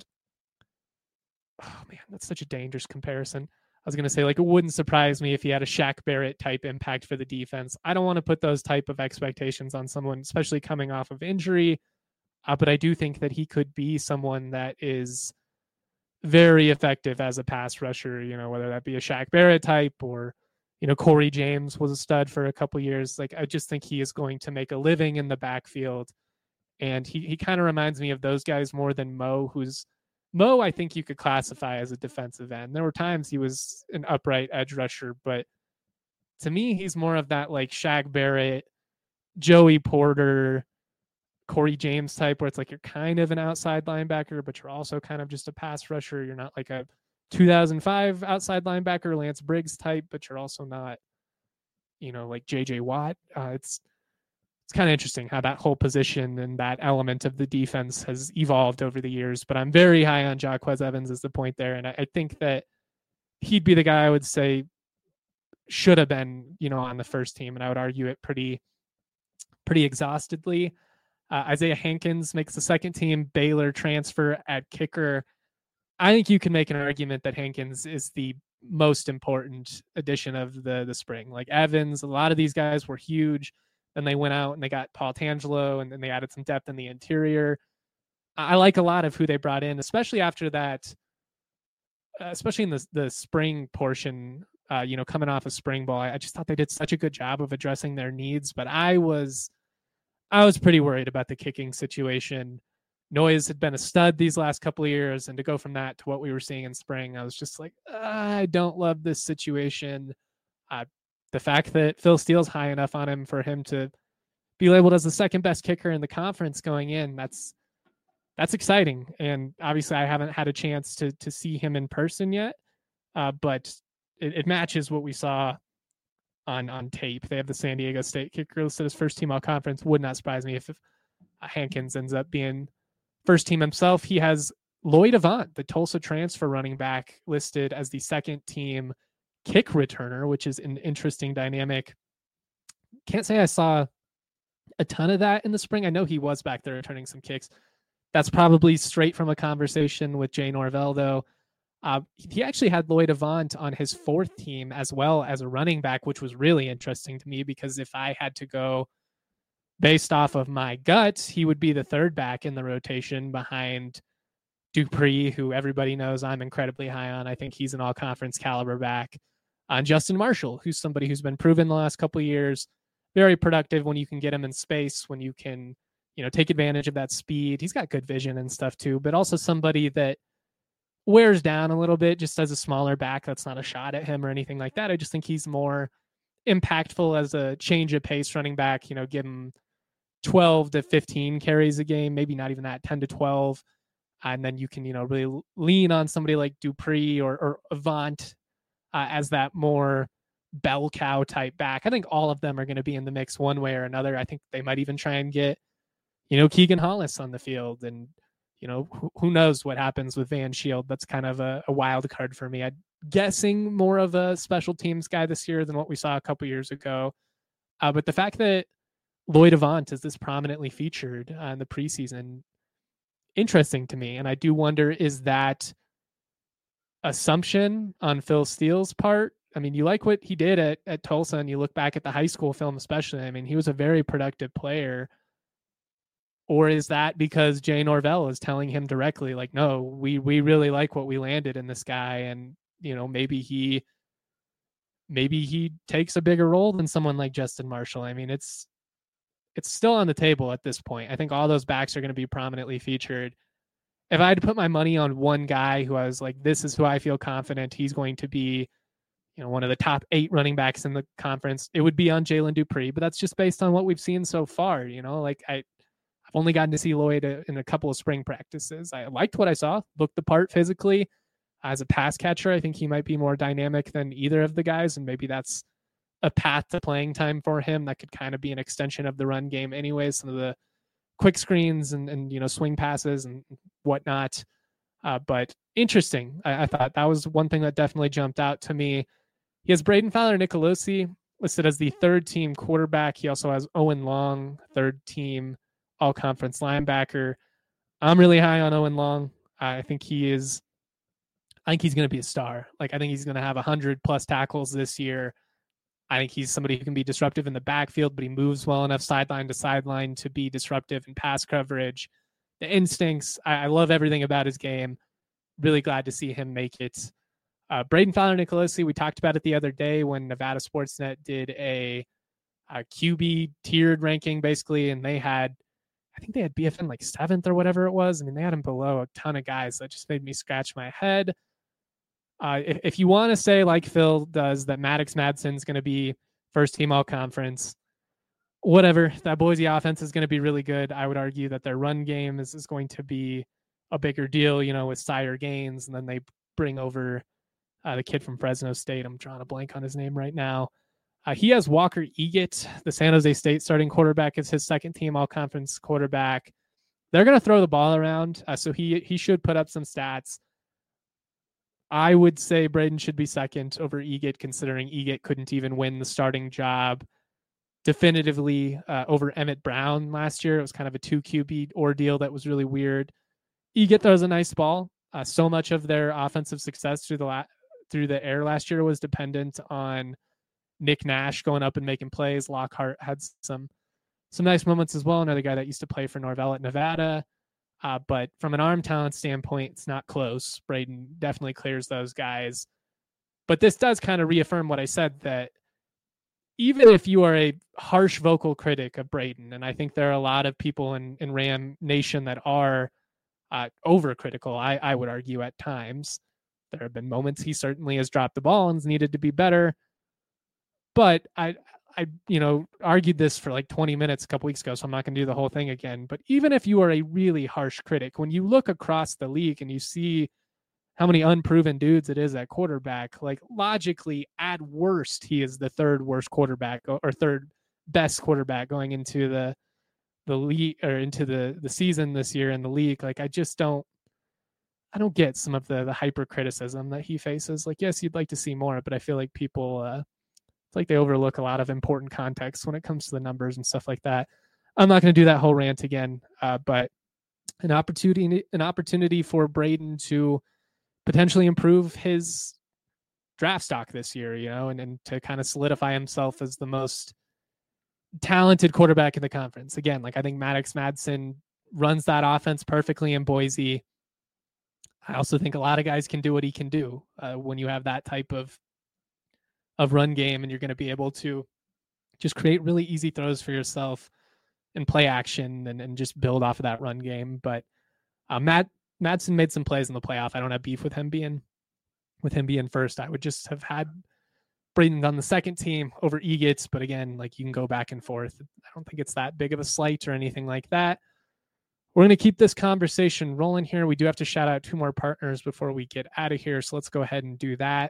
oh man, that's such a dangerous comparison. I was going to say, it wouldn't surprise me if he had a Shaq Barrett type impact for the defense. I don't want to put those type of expectations on someone, especially coming off of injury. But I do think that he could be someone that is very effective as a pass rusher, whether that be a Shaq Barrett type or, Corey James was a stud for a couple years. I just think he is going to make a living in the backfield. And he kind of reminds me of those guys more than Mo, Mo, I think you could classify as a defensive end. There were times he was an upright edge rusher, but to me, he's more of that Shaq Barrett, Joey Porter, Corey James type, where it's like you're kind of an outside linebacker, but you're also kind of just a pass rusher. You're not like a 2005 outside linebacker Lance Briggs type, but you're also not, like JJ Watt. It's kind of interesting how that whole position and that element of the defense has evolved over the years. But I'm very high on Jacquez Evans as the point there, and I think that he'd be the guy I would say should have been, on the first team, and I would argue it pretty exhaustedly. Isaiah Hankins makes the second team. Baylor transfer at kicker. I think you can make an argument that Hankins is the most important addition of the spring. Like Evans, a lot of these guys were huge. Then they went out and they got Paul Tangelo, and then they added some depth in the interior. I like a lot of who they brought in, especially after that, especially in the spring portion, coming off of spring ball. I just thought they did such a good job of addressing their needs, but I was pretty worried about the kicking situation. Noyes had been a stud these last couple of years, and to go from that to what we were seeing in spring, I was just like, I don't love this situation. The fact that Phil Steele's high enough on him for him to be labeled as the second best kicker in the conference going in, that's exciting. And obviously I haven't had a chance to see him in person yet, but it matches what we saw on tape. They have the San Diego State kicker listed as first team all conference. Would not surprise me if Hankins ends up being first team himself. He has Lloyd Avant, the Tulsa transfer running back, listed as the second team kick returner, which is an interesting dynamic. Can't say I saw a ton of that in the spring. I know he was back there returning some kicks. That's probably straight from a conversation with Jay Norvell, though. He actually had Lloyd Avant on his fourth team as well as a running back, which was really interesting to me because if I had to go based off of my gut, he would be the third back in the rotation behind Dupree, who everybody knows I'm incredibly high on. I think he's an all-conference caliber back. On Justin Marshall, who's somebody who's been proven the last couple of years, very productive when you can get him in space, when you can, take advantage of that speed. He's got good vision and stuff too, but also somebody that wears down a little bit just as a smaller back. That's not a shot at him or anything like that. I just think he's more impactful as a change of pace running back, give him 12 to 15 carries a game, maybe not even that, 10 to 12. And then you can, really lean on somebody like Dupree or Avant as that more bell cow type back. I think all of them are going to be in the mix one way or another. I think they might even try and get, Keegan Hollis on the field. And, who knows what happens with Van Shield. That's kind of a wild card for me. I'm guessing more of a special teams guy this year than what we saw a couple years ago. But the fact that Lloyd Avant is this prominently featured in the preseason, interesting to me. And I do wonder, is that assumption on Phil Steele's part? I mean, you like what he did at Tulsa, and you look back at the high school film especially. I mean, he was a very productive player. Or is that because Jay Norvell is telling him directly, like, no, we really like what we landed in this guy, and maybe he takes a bigger role than someone like Justin Marshall. I mean, it's still on the table at this point. I think all those backs are going to be prominently featured. If I had to put my money on one guy who I was like, this is who I feel confident he's going to be, one of the top 8 running backs in the conference, it would be on Jalen Dupree. But that's just based on what we've seen so far. Like I've only gotten to see Lloyd in a couple of spring practices. I liked what I saw, looked the part physically. As a pass catcher, I think he might be more dynamic than either of the guys, and maybe that's a path to playing time for him that could kind of be an extension of the run game anyway. Some of the quick screens and swing passes and whatnot. But interesting. I thought that was one thing that definitely jumped out to me. He has Braden Fowler-Nicolosi listed as the third team quarterback. He also has Owen Long, third team all-conference linebacker. I'm really high on Owen Long. I think he's going to be a star. I think he's going to have 100+ tackles this year. I think he's somebody who can be disruptive in the backfield, but he moves well enough sideline to sideline to be disruptive in pass coverage. The instincts, I love everything about his game. Really glad to see him make it. Braden Fowler-Nicolosi, we talked about it the other day when Nevada Sportsnet did a QB tiered ranking, basically, and I think they had BFN 7th or whatever it was. I mean, they had him below a ton of guys. That just made me scratch my head. If you want to say, like Phil does, that Maddox Madsen's going to be first team all conference, whatever. That Boise offense is going to be really good. I would argue that their run game is going to be a bigger deal, with Sire Gaines, and then they bring over the kid from Fresno State. I'm drawing a blank on his name right now. He has Walker Eggett, the San Jose State starting quarterback, as his second team all-conference quarterback. They're going to throw the ball around, so he should put up some stats. I would say Braden should be second over Eggett, considering Eggett couldn't even win the starting job definitively over Emmett Brown last year. It was kind of a 2 QB ordeal that was really weird. Eggett throws a nice ball. So much of their offensive success through the air last year was dependent on Nick Nash going up and making plays. Lockhart had some nice moments as well. Another guy that used to play for Norvell at Nevada. But from an arm talent standpoint, it's not close. Braden definitely clears those guys. But this does kind of reaffirm what I said, that even if you are a harsh vocal critic of Braden, and I think there are a lot of people in Ram Nation that are overcritical, I would argue at times. There have been moments he certainly has dropped the ball and needed to be better. But I argued this for like 20 minutes a couple weeks ago, so I'm not going to do the whole thing again. But even if you are a really harsh critic, when you look across the league and you see how many unproven dudes it is at quarterback, like logically, at worst, he is the third worst quarterback or third best quarterback going into the league or into the season this year in the league. Like, I don't get some of the hyper criticism that he faces. Like, yes, you'd like to see more, but I feel like people, it's like they overlook a lot of important context when it comes to the numbers and stuff like that. I'm not going to do that whole rant again, but an opportunity for Braden to potentially improve his draft stock this year, and to kind of solidify himself as the most talented quarterback in the conference. Again, like, I think Maddox Madsen runs that offense perfectly in Boise. I also think a lot of guys can do what he can do when you have that type of run game, and you're going to be able to just create really easy throws for yourself and play action and just build off of that run game. But Madsen made some plays in the playoff. I don't have beef with him being first. I would just have had Braden on the second team over Eggett, but again, like, you can go back and forth. I don't think it's that big of a slight or anything like that. We're going to keep this conversation rolling here. We do have to shout out 2 more partners before we get out of here, so let's go ahead and do that.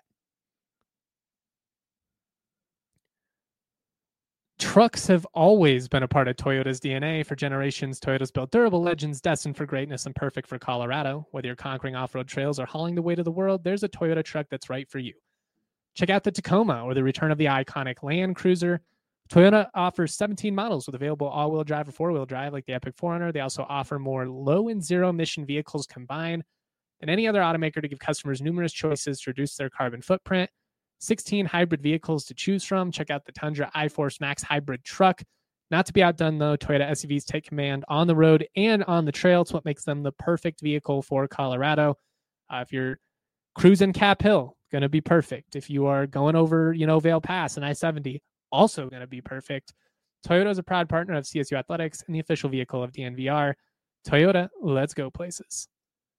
Trucks have always been a part of Toyota's DNA. For generations, Toyota's built durable legends destined for greatness and perfect for Colorado. Whether you're conquering off-road trails or hauling the weight of the world, there's a Toyota truck that's right for you. Check out the Tacoma or the return of the iconic Land Cruiser. Toyota offers 17 models with available all-wheel drive or four-wheel drive like the Epic 4Runner. They also offer more low and zero-emission vehicles combined than any other automaker to give customers numerous choices to reduce their carbon footprint. 16 hybrid vehicles to choose from. Check out the Tundra iForce Max hybrid truck. Not to be outdone, though, Toyota SUVs take command on the road and on the trail. It's what makes them the perfect vehicle for Colorado. If you're cruising Cap Hill, going to be perfect. If you are going over, Vail Pass and I-70, also going to be perfect. Toyota is a proud partner of CSU Athletics and the official vehicle of DNVR. Toyota, let's go places.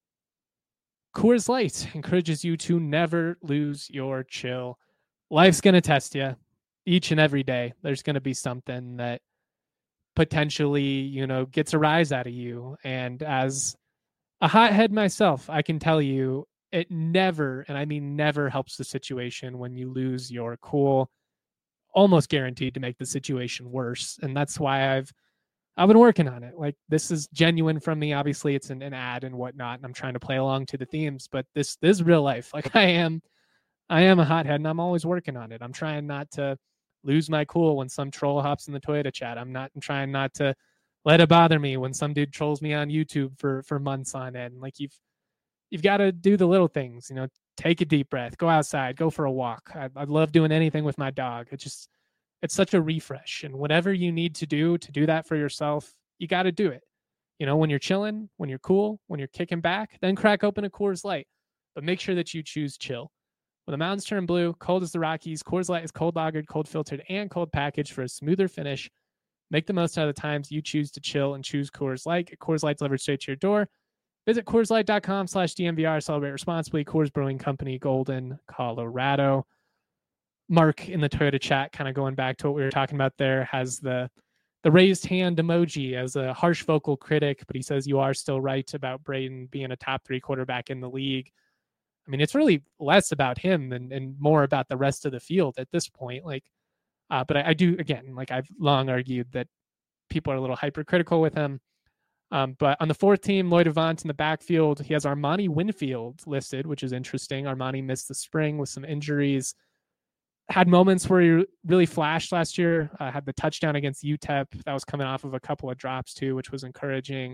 Coors Light encourages you to never lose your chill. Life's going to test you each and every day. There's going to be something that potentially, gets a rise out of you. And as a hothead myself, I can tell you it never, and I mean never, helps the situation when you lose your cool. Almost guaranteed to make the situation worse. And that's why I've been working on it. Like, this is genuine from me. Obviously, it's an ad and whatnot, and I'm trying to play along to the themes, but this is real life. Like, I am a hothead, and I'm always working on it. I'm trying not to lose my cool when some troll hops in the Toyota chat. I'm trying not to let it bother me when some dude trolls me on YouTube for months on end. Like, you've got to do the little things, take a deep breath, go outside, go for a walk. I love doing anything with my dog. It's such a refresh. And whatever you need to do that for yourself, you got to do it. When you're chilling, when you're cool, when you're kicking back, then crack open a Coors Light. But make sure that you choose chill. When the mountains turn blue, cold as the Rockies, Coors Light is cold lagered, cold filtered, and cold packaged for a smoother finish. Make the most out of the times you choose to chill and choose Coors Light. Get Coors Light delivered straight to your door. Visit CoorsLight.com/DNVR. Celebrate responsibly. Coors Brewing Company, Golden, Colorado. Mark in the Toyota chat, kind of going back to what we were talking about there, has the the raised hand emoji as a harsh vocal critic, but he says you are still right about Braden being a top 3 quarterback in the league. I mean, it's really less about him and more about the rest of the field at this point. Like, but I do, again, like I've long argued that people are a little hypercritical with him. But on the 4th team, Lloyd Avant in the backfield, he has Armani Winfield listed, which is interesting. Armani missed the spring with some injuries. Had moments where he really flashed last year. Had the touchdown against UTEP. That was coming off of a couple of drops too, which was encouraging.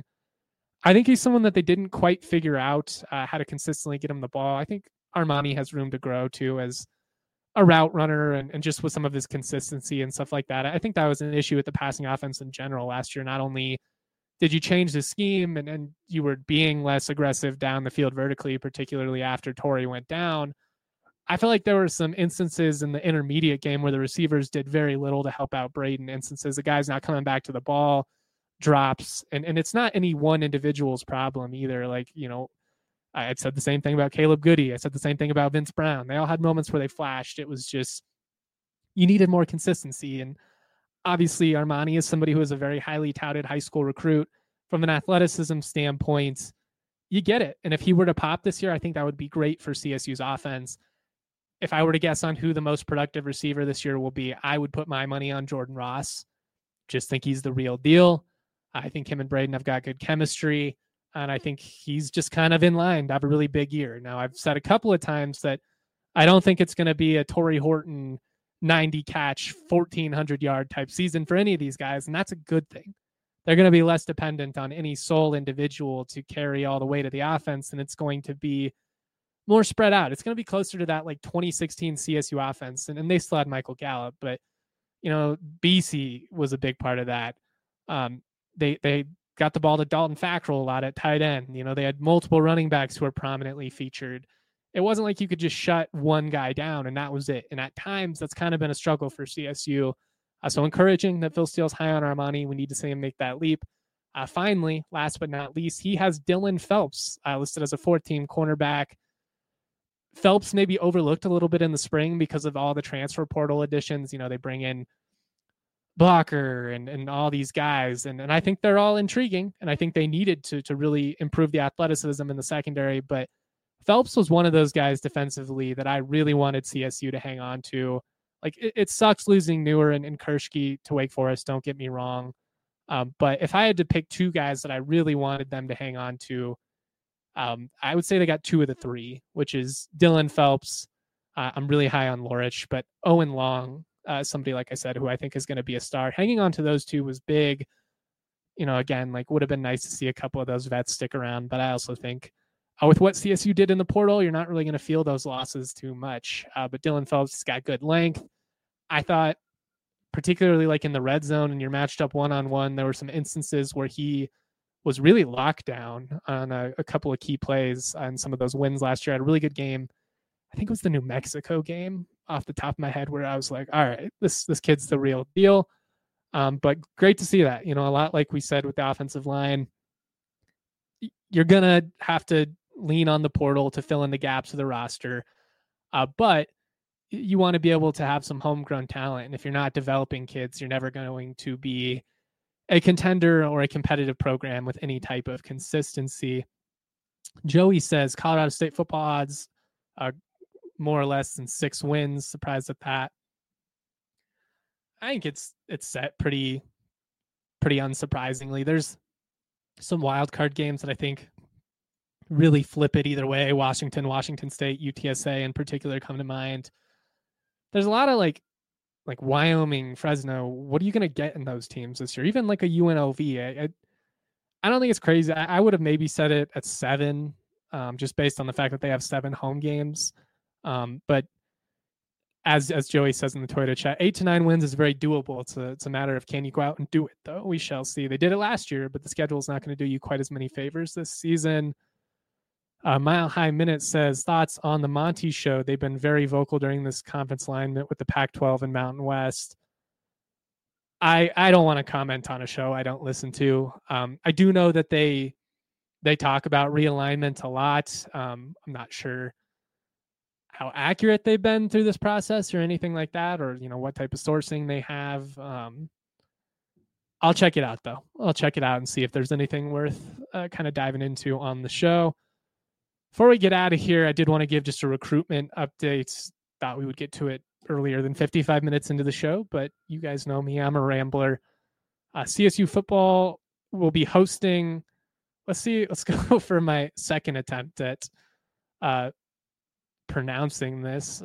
I think he's someone that they didn't quite figure out how to consistently get him the ball. I think Armani has room to grow too as a route runner and just with some of his consistency and stuff like that. I think that was an issue with the passing offense in general last year. Not only did you change the scheme and you were being less aggressive down the field vertically, particularly after Torrey went down, I feel like there were some instances in the intermediate game where the receivers did very little to help out Braden. Instances, the guy's not coming back to the ball, drops, and it's not any one individual's problem either. Like, you know, I had said the same thing about Caleb Goody. I said the same thing about Vince Brown. They all had moments where they flashed. It was just, you needed more consistency. And obviously Armani is somebody who is a very highly touted high school recruit. From an athleticism standpoint, you get it. And if he were to pop this year, I think that would be great for CSU's offense. If I were to guess on who the most productive receiver this year will be, I would put my money on Jordan Ross. Just think he's the real deal. I think him and Braden have got good chemistry, and I think he's just kind of in line to have a really big year. Now, I've said a couple of times that I don't think it's going to be a Torrey Horton 90 catch, 1,400 yard type season for any of these guys, and that's a good thing. They're going to be less dependent on any sole individual to carry all the weight of the offense, and it's going to be more spread out. It's going to be closer to that like 2016 CSU offense. And they still had Michael Gallup, but you know, BC was a big part of that. They got the ball to Dalton Fackrell a lot at tight end. You know, they had multiple running backs who were prominently featured. It wasn't like you could just shut one guy down and that was it. And at times that's kind of been a struggle for CSU. So encouraging that Phil Steele's high on Armani. We need to see him make that leap. Finally, last but not least, he has Dylan Phelps listed as a 4th team cornerback. Phelps maybe overlooked a little bit in the spring because of all the transfer portal additions. You know, they bring in Blocker and all these guys. And I think they're all intriguing. And I think they needed to really improve the athleticism in the secondary. But Phelps was one of those guys defensively that I really wanted CSU to hang on to. Like, it sucks losing Newer and Kershke to Wake Forest, don't get me wrong. But if I had to pick 2 guys that I really wanted them to hang on to, I would say they got 2 of the 3, which is Dylan Phelps. I'm really high on Lorich, but Owen Long, somebody, like I said, who I think is going to be a star. Hanging on to those 2 was big. You know, again, like would have been nice to see a couple of those vets stick around, but I also think with what CSU did in the portal, you're not really going to feel those losses too much. But Dylan Phelps has got good length. I thought, particularly like in the red zone and you're matched up one-on-one, there were some instances where he was really locked down on a couple of key plays on some of those wins last year. I had a really good game. I think it was the New Mexico game off the top of my head where I was like, all right, this kid's the real deal. But great to see that, you know, a lot like we said with the offensive line, you're going to have to lean on the portal to fill in the gaps of the roster. But you want to be able to have some homegrown talent. And if you're not developing kids, you're never going to be a contender or a competitive program with any type of consistency. Joey says Colorado State football odds are more or less than 6 wins. Surprised at that. I think it's set pretty unsurprisingly. There's some wild card games that I think really flip it either way. Washington State, UTSA in particular come to mind. There's a lot of like Wyoming, Fresno. What are you going to get in those teams this year? Even like a UNLV. I don't think it's crazy. I would have maybe set it at 7, just based on the fact that they have 7 home games. But as Joey says in the Twitter chat, 8 to 9 wins is very doable. It's a matter of can you go out and do it, though? We shall see. They did it last year, but the schedule is not going to do you quite as many favors this season. Mile High Minute says, thoughts on the Monty show? They've been very vocal during this conference alignment with the Pac-12 and Mountain West. I don't want to comment on a show I don't listen to. I do know that they talk about realignment a lot. I'm not sure how accurate they've been through this process or anything like that, or, you know, what type of sourcing they have. I'll check it out, though. I'll check it out and see if there's anything worth kind of diving into on the show. Before we get out of here, I did want to give just a recruitment update. Thought we would get to it earlier than 55 minutes into the show, but you guys know me. I'm a rambler. CSU football will be hosting. Let's go for my second attempt at pronouncing this.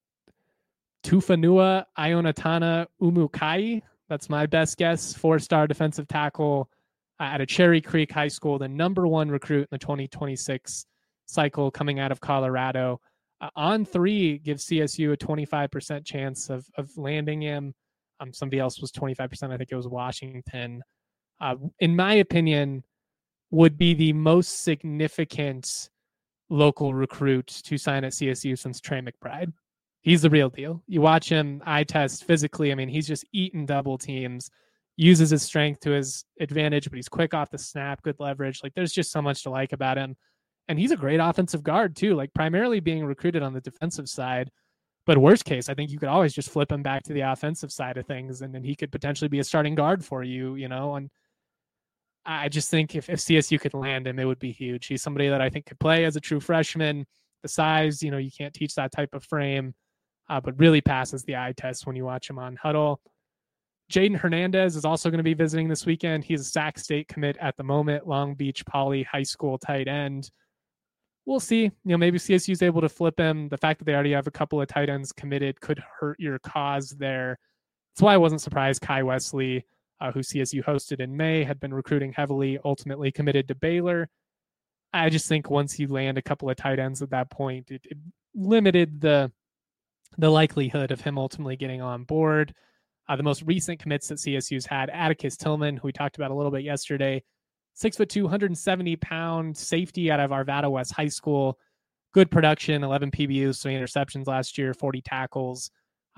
Tufanua Ionatana Umukai. That's my best guess. 4-star defensive tackle at a Cherry Creek High School, the number 1 recruit in the 2026 cycle coming out of Colorado. On3 gives CSU a 25% chance of landing him. Somebody else was 25%. I think it was Washington. In my opinion, would be the most significant local recruit to sign at CSU since Trey McBride. He's the real deal. You watch him eye test physically. I mean, he's just eating double teams, uses his strength to his advantage, but he's quick off the snap, good leverage. Like, there's just so much to like about him. And he's a great offensive guard too, like primarily being recruited on the defensive side. But worst case, I think you could always just flip him back to the offensive side of things, and then he could potentially be a starting guard for you, And I just think if CSU could land him, it would be huge. He's somebody that I think could play as a true freshman. The size, you can't teach that type of frame, but really passes the eye test when you watch him on Huddle. Jaden Hernandez is also going to be visiting this weekend. He's a Sac State commit at the moment, Long Beach Poly High School tight end. We'll see. Maybe CSU is able to flip him. The fact that they already have a couple of tight ends committed could hurt your cause there. That's why I wasn't surprised Kai Wesley, who CSU hosted in May, had been recruiting heavily, ultimately committed to Baylor. I just think once you land a couple of tight ends at that point, it limited the likelihood of him ultimately getting on board. The most recent commits that CSU's had, Atticus Tillman, who we talked about a little bit yesterday, 6'2", 170-pound safety out of Arvada West High School. Good production, 11 PBUs, 3 interceptions last year, 40 tackles.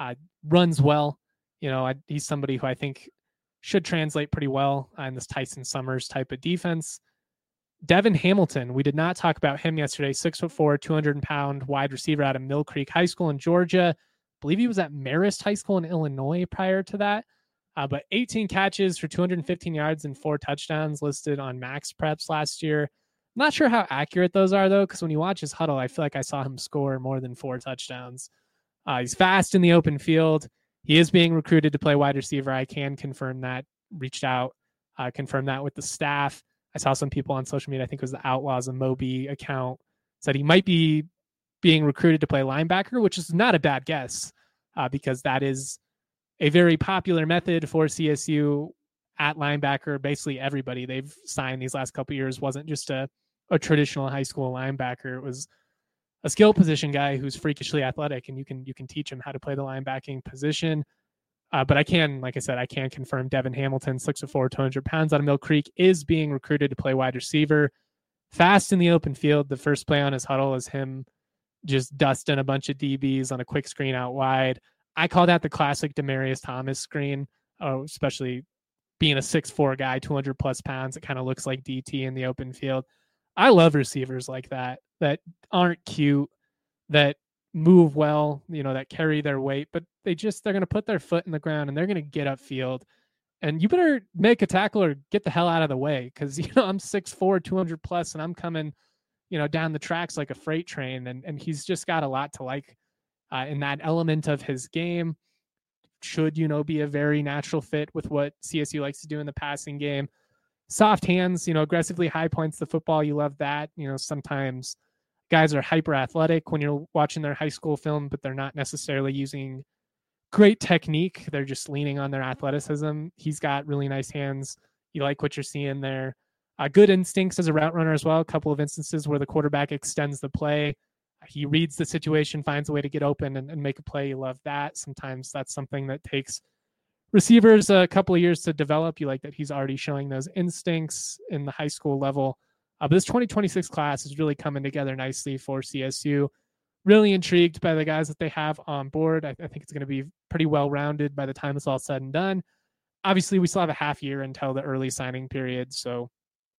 Runs well. He's somebody who I think should translate pretty well in this Tyson Summers type of defense. Devin Hamilton, we did not talk about him yesterday. 6'4", 200-pound wide receiver out of Mill Creek High School in Georgia. I believe he was at Marist High School in Illinois prior to that. But 18 catches for 215 yards and 4 touchdowns listed on Max Preps last year. I'm not sure how accurate those are, though, because when you watch his Huddle, I feel like I saw him score more than 4 touchdowns. He's fast in the open field. He is being recruited to play wide receiver. I can confirm that. Reached out, confirmed that with the staff. I saw some people on social media, I think it was the Outlaws and Moby account, said he might be being recruited to play linebacker, which is not a bad guess because that is a very popular method for CSU at linebacker. Basically everybody they've signed these last couple of years wasn't just a traditional high school linebacker. It was a skill position guy who's freakishly athletic, and you can teach him how to play the linebacking position. But I can confirm Devin Hamilton, 6'4", 200 pounds out of Mill Creek, is being recruited to play wide receiver. Fast in the open field. The first play on his Huddle is him just dusting a bunch of DBs on a quick screen out wide. I call that the classic Demarius Thomas screen, especially being a 6'4" guy, 200-plus pounds. It kind of looks like DT in the open field. I love receivers like that aren't cute, that move well, that carry their weight, but they're going to put their foot in the ground and they're going to get upfield. And you better make a tackle or get the hell out of the way because, I'm 6'4", 200-plus, and I'm coming, down the tracks like a freight train. And he's just got a lot to like in that element of his game. Should, be a very natural fit with what CSU likes to do in the passing game. Soft hands, aggressively high points the football. You love that. Sometimes guys are hyper athletic when you're watching their high school film, but they're not necessarily using great technique. They're just leaning on their athleticism. He's got really nice hands. You like what you're seeing there. Good instincts as a route runner as well. A couple of instances where the quarterback extends the play. He reads the situation, finds a way to get open and make a play. You love that. Sometimes that's something that takes receivers a couple of years to develop. You like that he's already showing those instincts in the high school level. But this 2026 class is really coming together nicely for CSU. Really intrigued by the guys that they have on board. I think it's going to be pretty well-rounded by the time it's all said and done. Obviously, we still have a half year until the early signing period, so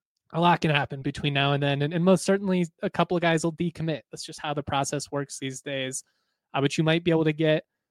a lot can happen between now and then. And most certainly a couple of guys will decommit. That's just how the process works these days. But you might be able to get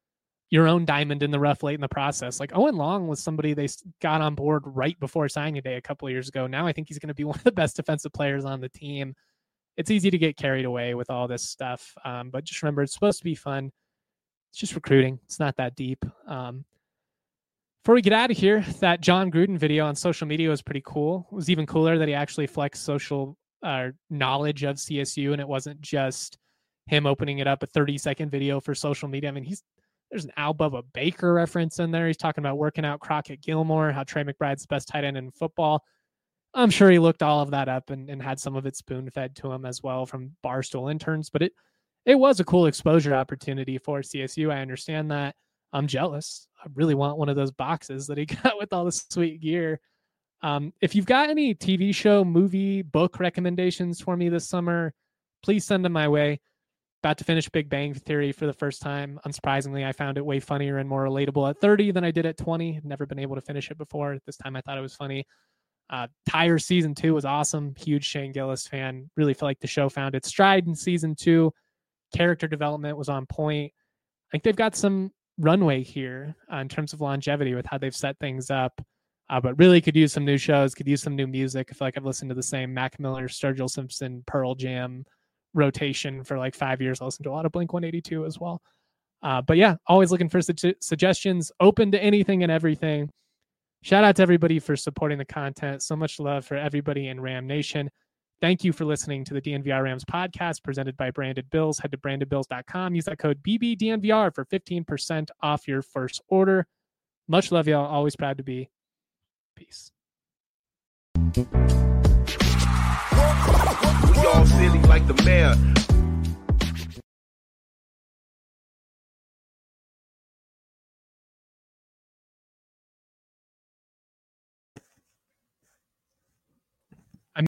your own diamond in the rough late in the process. Like Owen Long was somebody they got on board right before signing day a couple of years ago. Now I think he's going to be one of the best defensive players on the team. It's easy to get carried away with all this stuff. But just remember, it's supposed to be fun. It's just recruiting. It's not that deep. Before we get out of here, that John Gruden video on social media was pretty cool. It was even cooler that he actually flexed social knowledge of CSU, and it wasn't just him opening it up, a 30-second video for social media. I mean, there's an Al Bubba Baker reference in there. He's talking about working out Crockett Gilmore, how Trey McBride's the best tight end in football. I'm sure he looked all of that up and had some of it spoon-fed to him as well from Barstool interns. But it was a cool exposure opportunity for CSU. I understand that. I'm jealous. I really want one of those boxes that he got with all the sweet gear. If you've got any TV show, movie, book recommendations for me this summer, please send them my way. About to finish Big Bang Theory for the first time. Unsurprisingly, I found it way funnier and more relatable at 30 than I did at 20. I'd never been able to finish it before. This time I thought it was funny. Tire season 2 was awesome. Huge Shane Gillis fan. Really felt like the show found its stride in season 2. Character development was on point. I think they've got some runway here in terms of longevity with how they've set things up. But really could use some new shows, could use some new music. I feel like I've listened to the same Mac Miller, Sturgill Simpson, Pearl Jam rotation for like 5 years. I listened to a lot of Blink-182 as well. But yeah, always looking for suggestions, open to anything and everything. Shout out to everybody for supporting the content. So much love for everybody in Ram Nation. Thank you for listening to the DNVR Rams podcast presented by Branded Bills. Head to brandedbills.com. Use that code BBDNVR for 15% off your first order. Much love, y'all. Always proud to be. Peace. We all silly like the mayor.